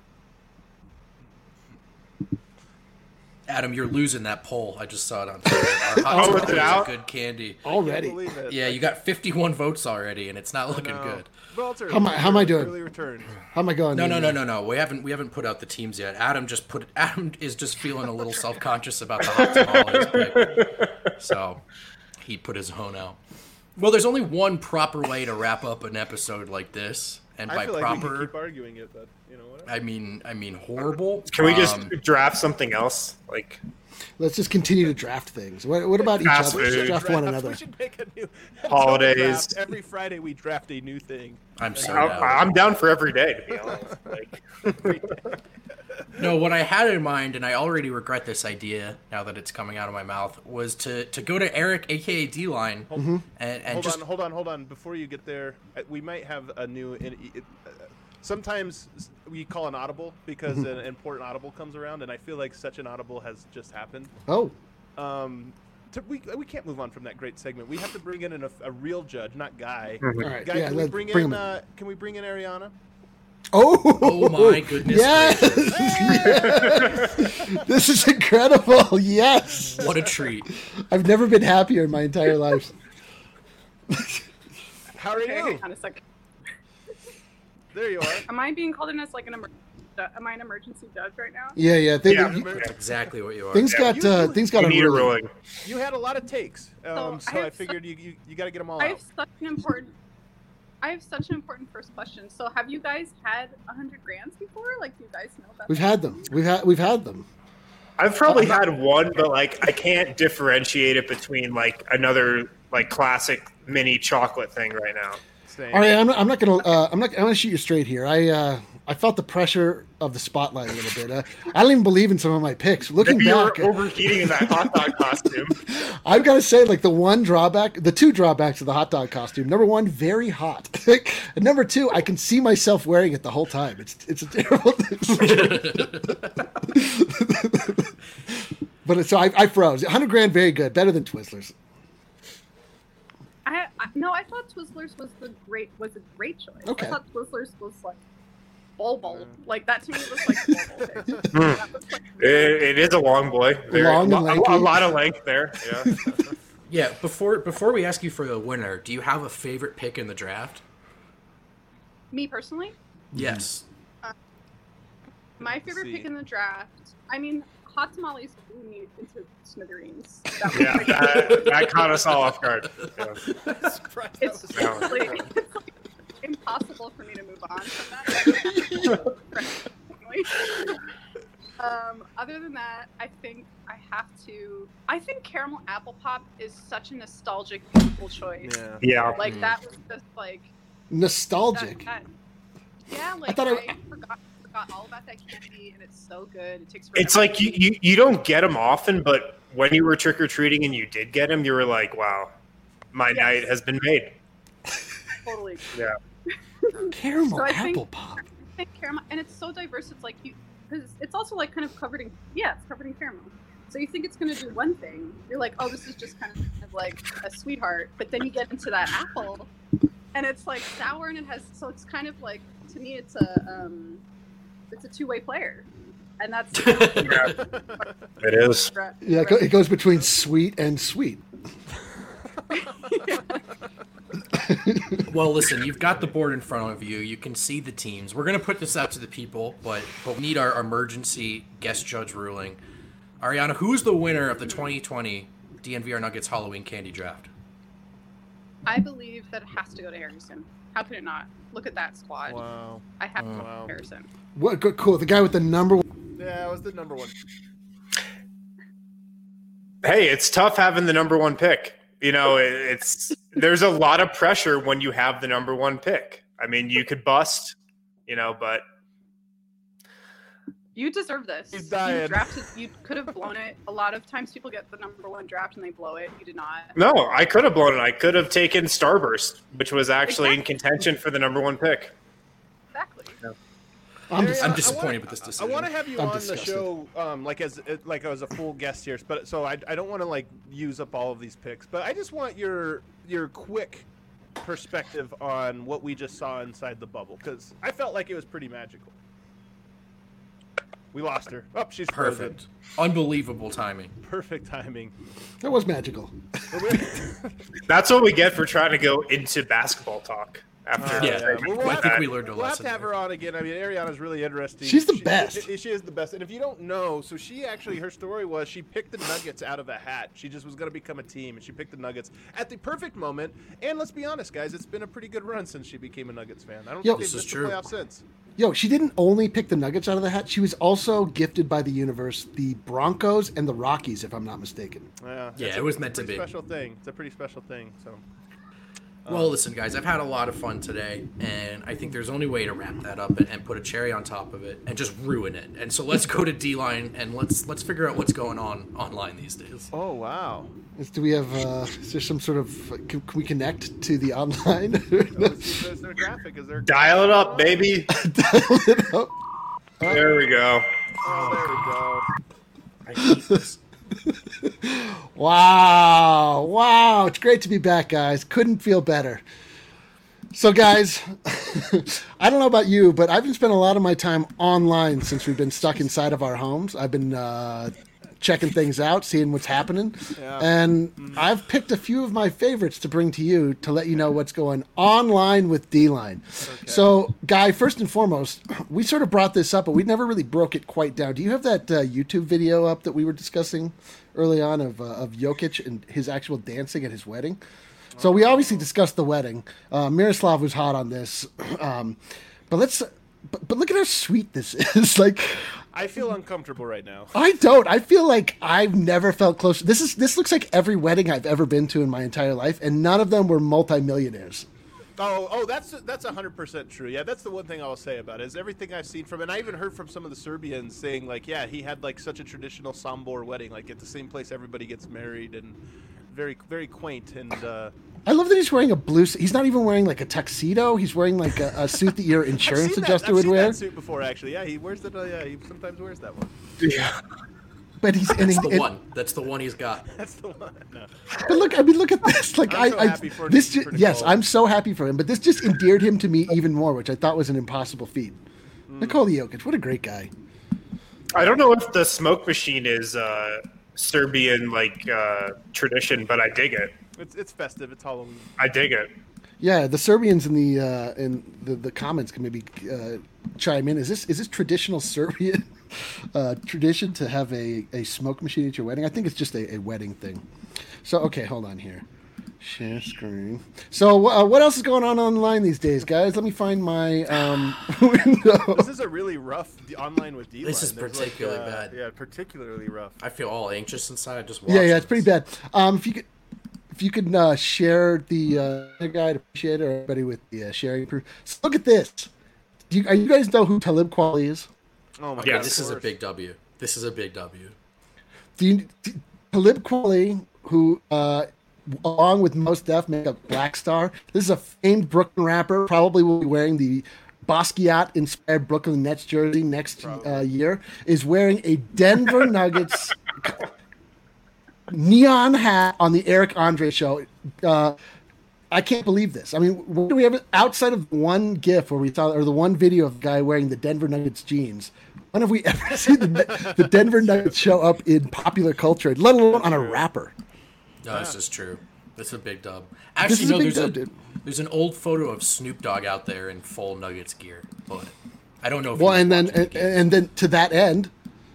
Speaker 5: Adam, you're losing that poll. I just saw it on Twitter. Our hot
Speaker 1: Oh,
Speaker 5: chocolate
Speaker 1: it's
Speaker 5: is
Speaker 1: out?
Speaker 5: a good candy.
Speaker 4: Already.
Speaker 3: Can't believe it.
Speaker 5: Yeah, you got fifty-one votes already, and it's not looking
Speaker 3: No.
Speaker 5: good.
Speaker 3: Walter,
Speaker 4: How am I- how am I doing?
Speaker 3: Early returns.
Speaker 4: How am I going?
Speaker 5: No, no,
Speaker 4: there?
Speaker 5: no, no, no. We haven't we haven't put out the teams yet. Adam just put Adam is just feeling a little self conscious about the hot tamales pick, so he put his own out. Well, there's only one proper way to wrap up an episode like this, and
Speaker 3: I
Speaker 5: by
Speaker 3: feel like we
Speaker 5: proper,
Speaker 3: can keep arguing it, but you know what?
Speaker 5: I mean I mean horrible.
Speaker 1: Can we just
Speaker 5: Um,
Speaker 1: draft something else? Like,
Speaker 4: Let's just continue to draft things. What, what about each
Speaker 1: Fast
Speaker 4: other?
Speaker 1: food.
Speaker 4: Draft one
Speaker 3: Draft-
Speaker 4: another.
Speaker 3: We should make a new
Speaker 1: Holidays.
Speaker 3: draft. Every Friday we draft a new thing.
Speaker 5: I'm so
Speaker 1: I-
Speaker 5: down.
Speaker 1: I'm down for every day, to be honest. Like,
Speaker 5: No, what I had in mind, and I already regret this idea now that it's coming out of my mouth, was to, to go to Eric, aka D-Line,
Speaker 4: Mm-hmm.
Speaker 5: and, and
Speaker 3: Hold
Speaker 5: just
Speaker 3: on, hold on, hold on. Before you get there, uh, we might have a new. It, it, uh, sometimes we call an audible because
Speaker 4: Mm-hmm.
Speaker 3: an important audible comes around, and I feel like such an audible has just happened.
Speaker 4: Oh,
Speaker 3: Um, to, we we can't move on from that great segment. We have to bring in an, a, a real judge, not Guy.
Speaker 4: all right.
Speaker 3: Guy,
Speaker 4: yeah,
Speaker 3: can we
Speaker 4: let's
Speaker 3: bring
Speaker 4: bring
Speaker 3: in?
Speaker 4: them in.
Speaker 3: Uh, can we bring in Ariana?
Speaker 4: Oh,
Speaker 5: Oh my goodness
Speaker 4: yes!
Speaker 5: gracious.
Speaker 4: Yes! This is incredible. Yes,
Speaker 5: What a treat.
Speaker 4: I've never been happier in my entire life.
Speaker 3: How are
Speaker 7: Okay,
Speaker 3: you?
Speaker 7: hang on a second.
Speaker 3: There you are.
Speaker 7: Am I being called in as like an emer- am I an emergency judge right now?
Speaker 4: Yeah, yeah. Things,
Speaker 1: Yeah.
Speaker 5: That's exactly what you are.
Speaker 4: things
Speaker 1: Yeah,
Speaker 4: got
Speaker 3: you-
Speaker 4: uh,
Speaker 3: you-
Speaker 4: things got
Speaker 1: you need a
Speaker 4: unruly.
Speaker 1: ruling.
Speaker 3: You had a lot of takes, um,
Speaker 7: So,
Speaker 3: so
Speaker 7: I
Speaker 3: I,
Speaker 7: have
Speaker 3: figured you you, you got to get them all
Speaker 7: I
Speaker 3: out.
Speaker 7: have such an important. I have such an important first question. So, have you guys had a hundred grands before? Like, do you guys know about?
Speaker 4: We've
Speaker 7: that?
Speaker 4: had them. We've had we've had them.
Speaker 1: I've probably had one, but like I can't differentiate it between like another like classic mini chocolate thing right now.
Speaker 3: Same.
Speaker 4: All right, I'm not, I'm not gonna uh, I'm not I'm gonna shoot you straight here. I uh, I felt the pressure of the spotlight a little bit. Uh, I don't even believe in some of my picks. Looking
Speaker 1: Maybe you're
Speaker 4: back,
Speaker 1: overheating in that hot dog costume.
Speaker 4: I've got to say, like the one drawback, the two drawbacks of the hot dog costume. Number one, very hot. And number two, I can see myself wearing it the whole time. It's it's a terrible thing. But it's, so I, I froze. one hundred grand, very good, better than Twizzlers.
Speaker 7: I, I no, I thought Twizzlers was the great was a great choice.
Speaker 4: Okay.
Speaker 7: I thought Twizzlers was like bol bol. Like that to me was like bol bol.
Speaker 1: Mm.
Speaker 7: That was like
Speaker 1: It, it is a long boy. Very,
Speaker 4: Long and
Speaker 1: a,
Speaker 4: lanky.
Speaker 1: a lot of length there. Yeah.
Speaker 5: Yeah, before before we ask you for the winner, do you have a favorite pick in the draft?
Speaker 7: me personally.
Speaker 5: Yes.
Speaker 7: My
Speaker 3: Let's
Speaker 7: favorite
Speaker 3: see.
Speaker 7: pick in the draft. I mean, hot tamales blew me into smithereens. That was
Speaker 1: Yeah,
Speaker 7: like,
Speaker 1: that, that caught us all off guard. Yeah.
Speaker 7: it's
Speaker 1: Yeah.
Speaker 7: seriously it's like impossible for me to move on from that. um, other than that, I think I have to. I think caramel apple pop is such a nostalgic, beautiful choice.
Speaker 3: Yeah.
Speaker 1: Yeah.
Speaker 7: Like
Speaker 5: Mm.
Speaker 7: that was just like
Speaker 4: Nostalgic.
Speaker 7: that, that, yeah, like I,
Speaker 4: thought I-
Speaker 7: forgot, forgot all about that candy, and it's so good. It takes.
Speaker 1: It's
Speaker 7: forever.
Speaker 1: like you, you, you don't get them often, but when you were trick or treating and you did get them, you were like, wow, my
Speaker 7: Yes.
Speaker 1: night has been made.
Speaker 7: totally.
Speaker 1: Yeah.
Speaker 4: Caramel
Speaker 7: So I
Speaker 4: apple
Speaker 7: think-
Speaker 4: pop.
Speaker 7: I think caramel, and it's so diverse. It's like you, because it's also like kind of covered in, yeah, it's covered in caramel. So you think it's gonna do one thing. You're like, oh, this is just kind of like a sweetheart. But then you get into that apple, and it's like sour, and it has. So it's kind of like, to me, it's a, um, it's a two-way player, and that's.
Speaker 1: Yeah, it is.
Speaker 4: Yeah, it go- it goes between sweet and sweet.
Speaker 5: Well, listen, you've got the board in front of you. You can see the teams. We're going to put this out to the people, but, but we need our emergency guest judge ruling. Ariana, who's the winner of the twenty twenty D N V R Nuggets Halloween Candy Draft?
Speaker 7: I believe that it has to go to Harrison. How could it not? Look at that squad.
Speaker 3: Wow.
Speaker 7: I have to
Speaker 5: Mm.
Speaker 7: go
Speaker 3: Wow.
Speaker 7: to Harrison.
Speaker 4: What good, cool. The guy with the number one.
Speaker 3: Yeah, it was the number one.
Speaker 1: Hey, it's tough having the number one pick. You know, it- it's there's a lot of pressure when you have the number one pick. I mean, you could bust, you know, but
Speaker 7: You deserve this.
Speaker 3: He's
Speaker 7: You
Speaker 3: dying.
Speaker 7: drafted. You could have blown it. A lot of times people get the number one draft and they blow it. You did not.
Speaker 1: no, I could have blown it. I could have taken Starburst, which was actually in
Speaker 7: Exactly.
Speaker 1: contention for the number one pick.
Speaker 7: Exactly.
Speaker 4: I'm
Speaker 3: Ariana,
Speaker 4: just,
Speaker 5: I'm
Speaker 3: I
Speaker 5: disappointed
Speaker 3: wanna-
Speaker 5: with this
Speaker 3: I
Speaker 5: decision.
Speaker 3: want to have you
Speaker 4: I'm
Speaker 3: on
Speaker 4: disgusted.
Speaker 3: the show, um, like as like as a full guest here, but so I, I don't want to like use up all of these picks, but I just want your your quick perspective on what we just saw inside the bubble because I felt like it was pretty magical. We lost her. Oh, she's frozen.
Speaker 5: Perfect. Unbelievable timing.
Speaker 3: Perfect timing.
Speaker 4: that was magical.
Speaker 1: That's what we get for trying to go into basketball talk after.
Speaker 3: Uh,
Speaker 5: Yeah,
Speaker 1: segment
Speaker 3: well,
Speaker 1: like
Speaker 3: we'll
Speaker 5: I
Speaker 3: have
Speaker 5: think
Speaker 1: that.
Speaker 5: we learned a
Speaker 3: We'll have
Speaker 5: lesson
Speaker 3: to have
Speaker 5: there.
Speaker 3: her on again. I mean, Ariana's really interesting.
Speaker 4: She's the
Speaker 3: She-
Speaker 4: best.
Speaker 3: She, she is the best. And if you don't know, so she actually, her story was she picked the Nuggets out of a hat. She just was going to become a team, and she picked the Nuggets at the perfect moment. And let's be honest, guys, it's been a pretty good run since she became a Nuggets fan. I don't
Speaker 4: Yo,
Speaker 3: think
Speaker 5: This
Speaker 3: they've
Speaker 5: is
Speaker 3: missed the
Speaker 5: true.
Speaker 3: playoffs since.
Speaker 4: Yo, she didn't only pick the Nuggets out of the hat. She was also gifted by the universe the Broncos and the Rockies, if I'm not mistaken.
Speaker 3: Yeah,
Speaker 5: Yeah,
Speaker 3: it's
Speaker 5: it
Speaker 3: a-
Speaker 5: was
Speaker 3: it's a
Speaker 5: meant to
Speaker 3: pretty
Speaker 5: be.
Speaker 3: Special thing. It's a pretty special thing. So.
Speaker 5: Well, listen, guys, I've had a lot of fun today, and I think there's only way to wrap that up and, and put a cherry on top of it and just ruin it. And so let's go to D-Line and let's let's figure out what's going on online these days.
Speaker 3: Oh wow.
Speaker 4: Is, do we have? Uh, is there some sort of? Can, can we connect to the online?
Speaker 3: Let's see if there's their graphic. Is there?
Speaker 1: Dial it up, baby. There we go.
Speaker 3: Oh, there we go.
Speaker 5: I hate this.
Speaker 4: Wow, wow! It's great to be back, guys. Couldn't feel better. So, guys, I don't know about you, but I've been spending a lot of my time online since we've been stuck inside of our homes. I've been uh, checking things out, seeing what's happening,
Speaker 3: Yeah.
Speaker 4: and I've picked a few of my favorites to bring to you to let you know what's going online with D-Line. So, Guy, first and foremost, we sort of brought this up, but we never really broke it quite down. Do you have that uh, YouTube video up that we were discussing early on of uh, of Jokic and his actual dancing at his wedding? So we obviously discussed the wedding. Uh, Miroslav was hot on this, um, but let's. But, but look at how sweet this is. Like,
Speaker 3: I feel uncomfortable right now.
Speaker 4: I don't. I feel like I've never felt close. This is. This looks like every wedding I've ever been to in my entire life, and none of them were multimillionaires.
Speaker 3: Oh, oh, that's that's a hundred percent true. Yeah, that's the one thing I'll say about it is everything I've seen from, and I even heard from some of the Serbians saying like, yeah, he had like such a traditional Sombor wedding, like at the same place everybody gets married, and very very quaint. And uh,
Speaker 4: I love that he's wearing a blue. s- He's not even wearing like a tuxedo. He's wearing like a, a suit that your
Speaker 3: I've
Speaker 4: insurance
Speaker 3: seen that-
Speaker 4: adjuster
Speaker 3: I've
Speaker 4: would
Speaker 3: seen
Speaker 4: wear.
Speaker 3: that suit before, actually. Yeah, he wears that. Uh, yeah, he sometimes wears that one.
Speaker 1: Yeah.
Speaker 4: But he's and,
Speaker 5: That's
Speaker 4: he-
Speaker 5: the
Speaker 4: and-
Speaker 5: one. That's the one he's got.
Speaker 3: That's the one. No.
Speaker 4: But look, I mean, look at this. Like,
Speaker 3: I'm so
Speaker 4: I, I
Speaker 3: happy for-
Speaker 4: this.
Speaker 3: for
Speaker 4: Ju- yes,
Speaker 3: Nicole.
Speaker 4: I'm so happy for him. But this just endeared him to me even more, which I thought was an impossible feat.
Speaker 3: Mm.
Speaker 4: Nikola Jokic, what a great guy.
Speaker 1: I don't know if the smoke machine is uh, Serbian like uh, tradition, but I dig it.
Speaker 3: It's it's festive. It's Halloween.
Speaker 1: I dig it.
Speaker 4: Yeah, the Serbians in the uh, in the, the comments can maybe uh, chime in. Is this is this traditional Serbian uh, tradition to have a, a smoke machine at your wedding? I think it's just a, a wedding thing. So okay, hold on here. Share screen. So uh, what else is going on online these days, guys? Let me find my um, window.
Speaker 3: This is a really rough d- online with D-line.
Speaker 5: This is
Speaker 3: There's,
Speaker 5: particularly
Speaker 3: like, uh,
Speaker 5: bad.
Speaker 3: Yeah, particularly rough.
Speaker 5: I feel all anxious inside just
Speaker 4: Yeah,
Speaker 5: watching.
Speaker 4: yeah, it's pretty
Speaker 5: this.
Speaker 4: bad. Um, if you could, if you could uh, share the uh, guide, appreciate it, or everybody with the uh, sharing proof. So look at this. Do you, are you guys know who Talib Kweli is?
Speaker 3: Oh my
Speaker 5: Okay,
Speaker 3: god.
Speaker 5: this
Speaker 3: of
Speaker 5: is a
Speaker 3: course.
Speaker 5: big W. This is a big W.
Speaker 4: Do you, do, Talib Kweli, who uh, along with Mos Def make up Black Star. This is a famed Brooklyn rapper. Probably will be wearing the Basquiat inspired Brooklyn Nets jersey next uh, year. Is wearing a Denver Nuggets neon hat on the Eric Andre show. Uh, I can't believe this. I mean, what do we have outside of one GIF where we saw, or the one video of the guy wearing the Denver Nuggets jeans? When have we ever seen the, the Denver Nuggets show up in popular culture, let alone on a rapper?
Speaker 5: No, this is true. This That's a big dub.
Speaker 4: This
Speaker 5: Actually,
Speaker 4: is a
Speaker 5: no,
Speaker 4: big
Speaker 5: there's
Speaker 4: dub,
Speaker 5: a
Speaker 4: dude.
Speaker 5: there's an old photo of Snoop Dogg out there in full Nuggets gear, but I don't know. if
Speaker 4: Well,
Speaker 5: he was
Speaker 4: and then
Speaker 5: watching the
Speaker 4: and,
Speaker 5: game.
Speaker 4: and then to that end,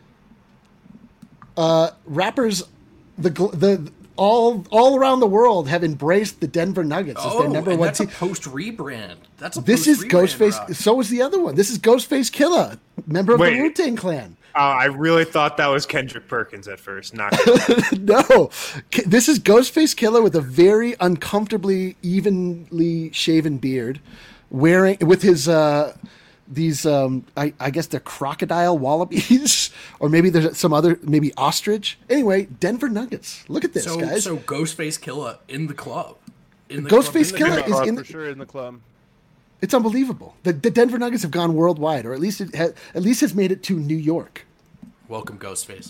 Speaker 4: uh, rappers, the gl- the all all around the world have embraced the Denver Nuggets as
Speaker 5: oh,
Speaker 4: their number
Speaker 5: and
Speaker 4: one
Speaker 5: that's
Speaker 4: team.
Speaker 5: a post rebrand. That's a
Speaker 4: This is
Speaker 5: post-rebrand
Speaker 4: Ghostface.
Speaker 5: rock.
Speaker 4: So is the other one. This is Ghostface Killer, member of
Speaker 1: Wait.
Speaker 4: the Wu Tang Clan.
Speaker 1: Uh, I really thought that was Kendrick Perkins at first. Not
Speaker 4: No, K- this is Ghostface Killer with a very uncomfortably evenly shaven beard, wearing with his uh, these um, I, I guess they're crocodile wallabies, or maybe there's some other maybe ostrich. Anyway, Denver Nuggets. Look at this,
Speaker 5: So,
Speaker 4: guys.
Speaker 5: so Ghostface Killa in the club. In the
Speaker 4: Ghostface
Speaker 5: club.
Speaker 4: Killer
Speaker 3: In the
Speaker 4: is
Speaker 3: club,
Speaker 4: in
Speaker 3: for
Speaker 4: the-
Speaker 3: sure in the club.
Speaker 4: It's unbelievable. The, the Denver Nuggets have gone worldwide, or at least it ha- at least has made it to New York.
Speaker 5: Welcome, Ghostface.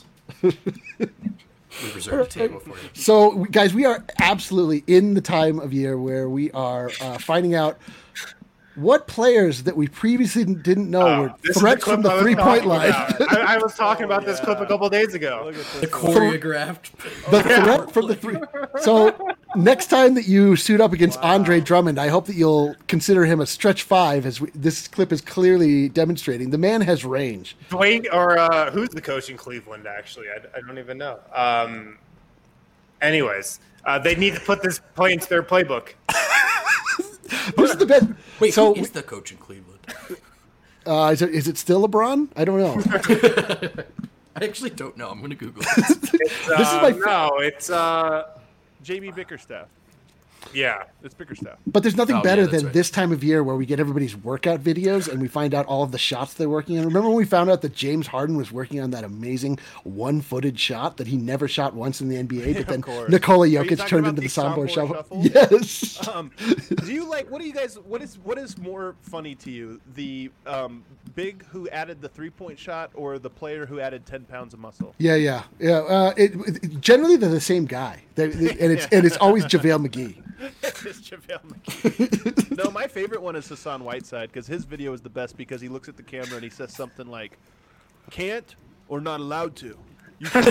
Speaker 5: We reserved a table for you.
Speaker 4: So, guys, we are absolutely in the time of year where we are uh, finding out what players that we previously didn't know
Speaker 1: Oh,
Speaker 4: were
Speaker 1: this is
Speaker 4: threats
Speaker 1: clip
Speaker 4: from the
Speaker 1: I was
Speaker 4: three-point
Speaker 1: talking
Speaker 4: line.
Speaker 1: about. I, I was talking about this clip a couple days ago.
Speaker 3: Look at
Speaker 5: The
Speaker 3: this.
Speaker 5: choreographed.
Speaker 4: The threat from the three. So, next time that you suit up against Andre Drummond, I hope that you'll consider him a stretch five, as we, this clip is clearly demonstrating. The man has range.
Speaker 1: Dwayne, or uh, who's the coach in Cleveland? Actually, I, I don't even know. Um, anyways, uh, they need to put this play into their playbook.
Speaker 4: This is the best.
Speaker 5: Wait,
Speaker 4: so,
Speaker 5: who is the coach in Cleveland?
Speaker 4: uh, is, it, is it still LeBron? I don't know.
Speaker 5: I actually don't know. I'm going to Google it.
Speaker 1: It's,
Speaker 4: This is
Speaker 1: uh,
Speaker 4: my fa-
Speaker 1: no, it's uh,
Speaker 3: J B Bickerstaff.
Speaker 1: yeah.
Speaker 3: It's Bickerstaff.
Speaker 4: But there's nothing
Speaker 5: Oh, yeah,
Speaker 4: better
Speaker 5: that's
Speaker 4: than
Speaker 5: right.
Speaker 4: this time of year where we get everybody's workout videos and we find out all of the shots they're working on. Remember when we found out that James Harden was working on that amazing one-footed shot that he never shot once in the N B A, but then
Speaker 3: course.
Speaker 4: Nikola
Speaker 3: Are you
Speaker 4: Jokic
Speaker 3: talking
Speaker 4: turned
Speaker 3: about
Speaker 4: into the
Speaker 3: the
Speaker 4: Sombor
Speaker 3: Sombor
Speaker 4: shuffle?
Speaker 3: shuffle?
Speaker 4: Yes.
Speaker 3: Um, do you like? What do you guys? What is what is more funny to you? The um, big who added the three point shot, or the player who added ten pounds of muscle?
Speaker 4: Yeah, yeah, yeah. Uh, it, it- generally, they're the same guy, They're- and it's and it's always JaVale McGee.
Speaker 3: It's JaVale McGee. No, my favorite one is Hassan Whiteside because his video is the best because he looks at the camera and he says something like, "Can't or not allowed to." You can't.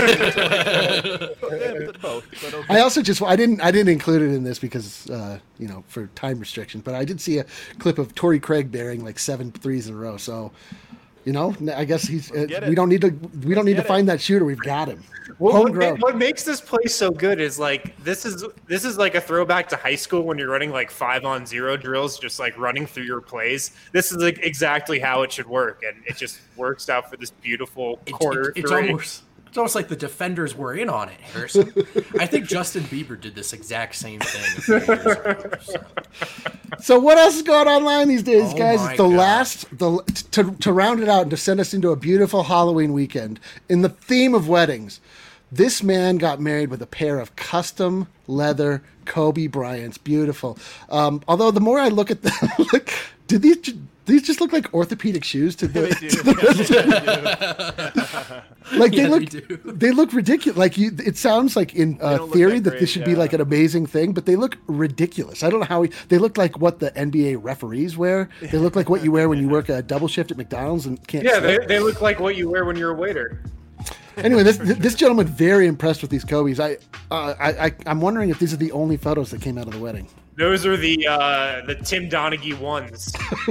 Speaker 3: Yeah, both. But okay.
Speaker 4: I also just I didn't I didn't include it in this because uh, you know for time restrictions, but I did see a clip of Torrey Craig bearing like seven threes in a row. So, you know, I guess he's uh,
Speaker 3: get
Speaker 4: we
Speaker 3: it.
Speaker 4: don't need to we don't need to
Speaker 3: get it.
Speaker 4: find that shooter. We've got him.
Speaker 1: Well, what, ma-
Speaker 4: Homegrown.
Speaker 1: what makes this play so good is like this is this is like a throwback to high school when you're running like five on zero drills, just like running through your plays. This is like exactly how it should work, and it just works out for this beautiful
Speaker 5: It-
Speaker 1: quarter
Speaker 5: it- it's
Speaker 1: three.
Speaker 5: almost it's almost like the defenders were in on it, Harrison. I think Justin Bieber did this exact same thing a few years ago. So.
Speaker 4: So what else is going on online these days,
Speaker 5: Oh
Speaker 4: guys?
Speaker 5: my
Speaker 4: It's the
Speaker 5: God.
Speaker 4: last the to to round it out and to send us into a beautiful Halloween weekend in the theme of weddings. This man got married with a pair of custom leather Kobe Bryants. Beautiful. Um, although the more I look at them, like, do these ju- these just look like orthopedic shoes to the?
Speaker 3: They do.
Speaker 4: to the- like they
Speaker 5: Yeah,
Speaker 4: look,
Speaker 5: they do.
Speaker 4: they look ridiculous. Like you, it sounds like in uh,
Speaker 3: don't look
Speaker 4: theory
Speaker 3: that
Speaker 4: that
Speaker 3: great,
Speaker 4: this should be
Speaker 3: yeah.
Speaker 4: like an amazing thing, but they look ridiculous. I don't know how he, they look like what the N B A referees wear. They look like what you wear when you work a double shift at McDonald's and can't.
Speaker 1: Yeah, they,
Speaker 4: sleep.
Speaker 1: they look like what you wear when you're a waiter.
Speaker 4: Anyway, this this gentleman very impressed with these Kobe's. I, uh, I I I'm wondering if these are the only photos that came out of the wedding.
Speaker 1: Those are the uh, the Tim Donaghy ones.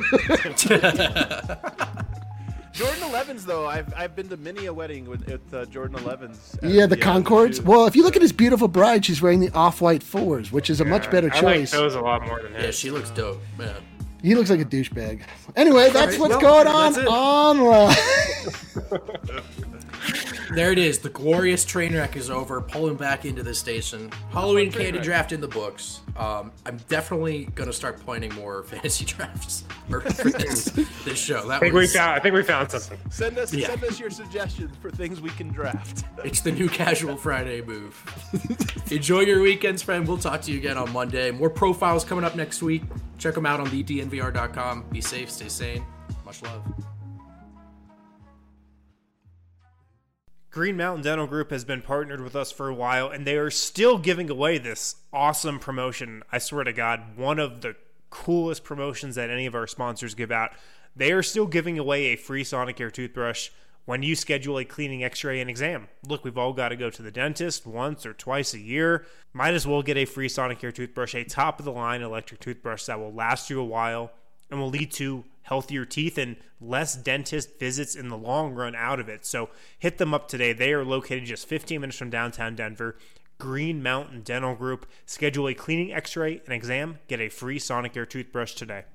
Speaker 3: Jordan elevens though, I've I've been to many a wedding with, with uh, Jordan elevens. as
Speaker 4: Yeah, the
Speaker 3: uh,
Speaker 4: Concords.
Speaker 3: shoe.
Speaker 4: Well, if you look at his beautiful bride, she's wearing the off-white fours, which is a much better
Speaker 1: I like
Speaker 4: choice.
Speaker 1: those a lot more than his.
Speaker 5: Yeah, she looks dope. Yeah.
Speaker 4: He looks like a douchebag. Anyway, that's
Speaker 5: right,
Speaker 4: what's
Speaker 5: well,
Speaker 4: going on
Speaker 5: that's it.
Speaker 4: online.
Speaker 5: There it is. The glorious train wreck is over. Pulling back into the station. Halloween candy draft in the books. Um, I'm definitely gonna start planning more fantasy drafts for for this, this show. That
Speaker 1: I think we
Speaker 5: was,
Speaker 1: found. I think we found something.
Speaker 3: Send us
Speaker 5: Yeah.
Speaker 3: send us your suggestions for things we can draft.
Speaker 5: It's the new Casual Friday move. Enjoy your weekends, friend. We'll talk to you again on Monday. More profiles coming up next week. Check them out on the D N V R dot com. Be safe, stay sane. Much love.
Speaker 1: Green Mountain Dental Group has been partnered with us for a while, and they are still giving away this awesome promotion. I swear to God, one of the coolest promotions that any of our sponsors give out. They are still giving away a free Sonicare toothbrush when you schedule a cleaning, x-ray, and exam. Look, we've all got to go to the dentist once or twice a year. Might as well get a free Sonicare toothbrush, a top-of-the-line electric toothbrush that will last you a while and will lead to healthier teeth and less dentist visits in the long run out of it. So hit them up today. They are located just fifteen minutes from downtown Denver. Green Mountain Dental Group. Schedule a cleaning, x-ray, and exam. Get a free Sonicare toothbrush today.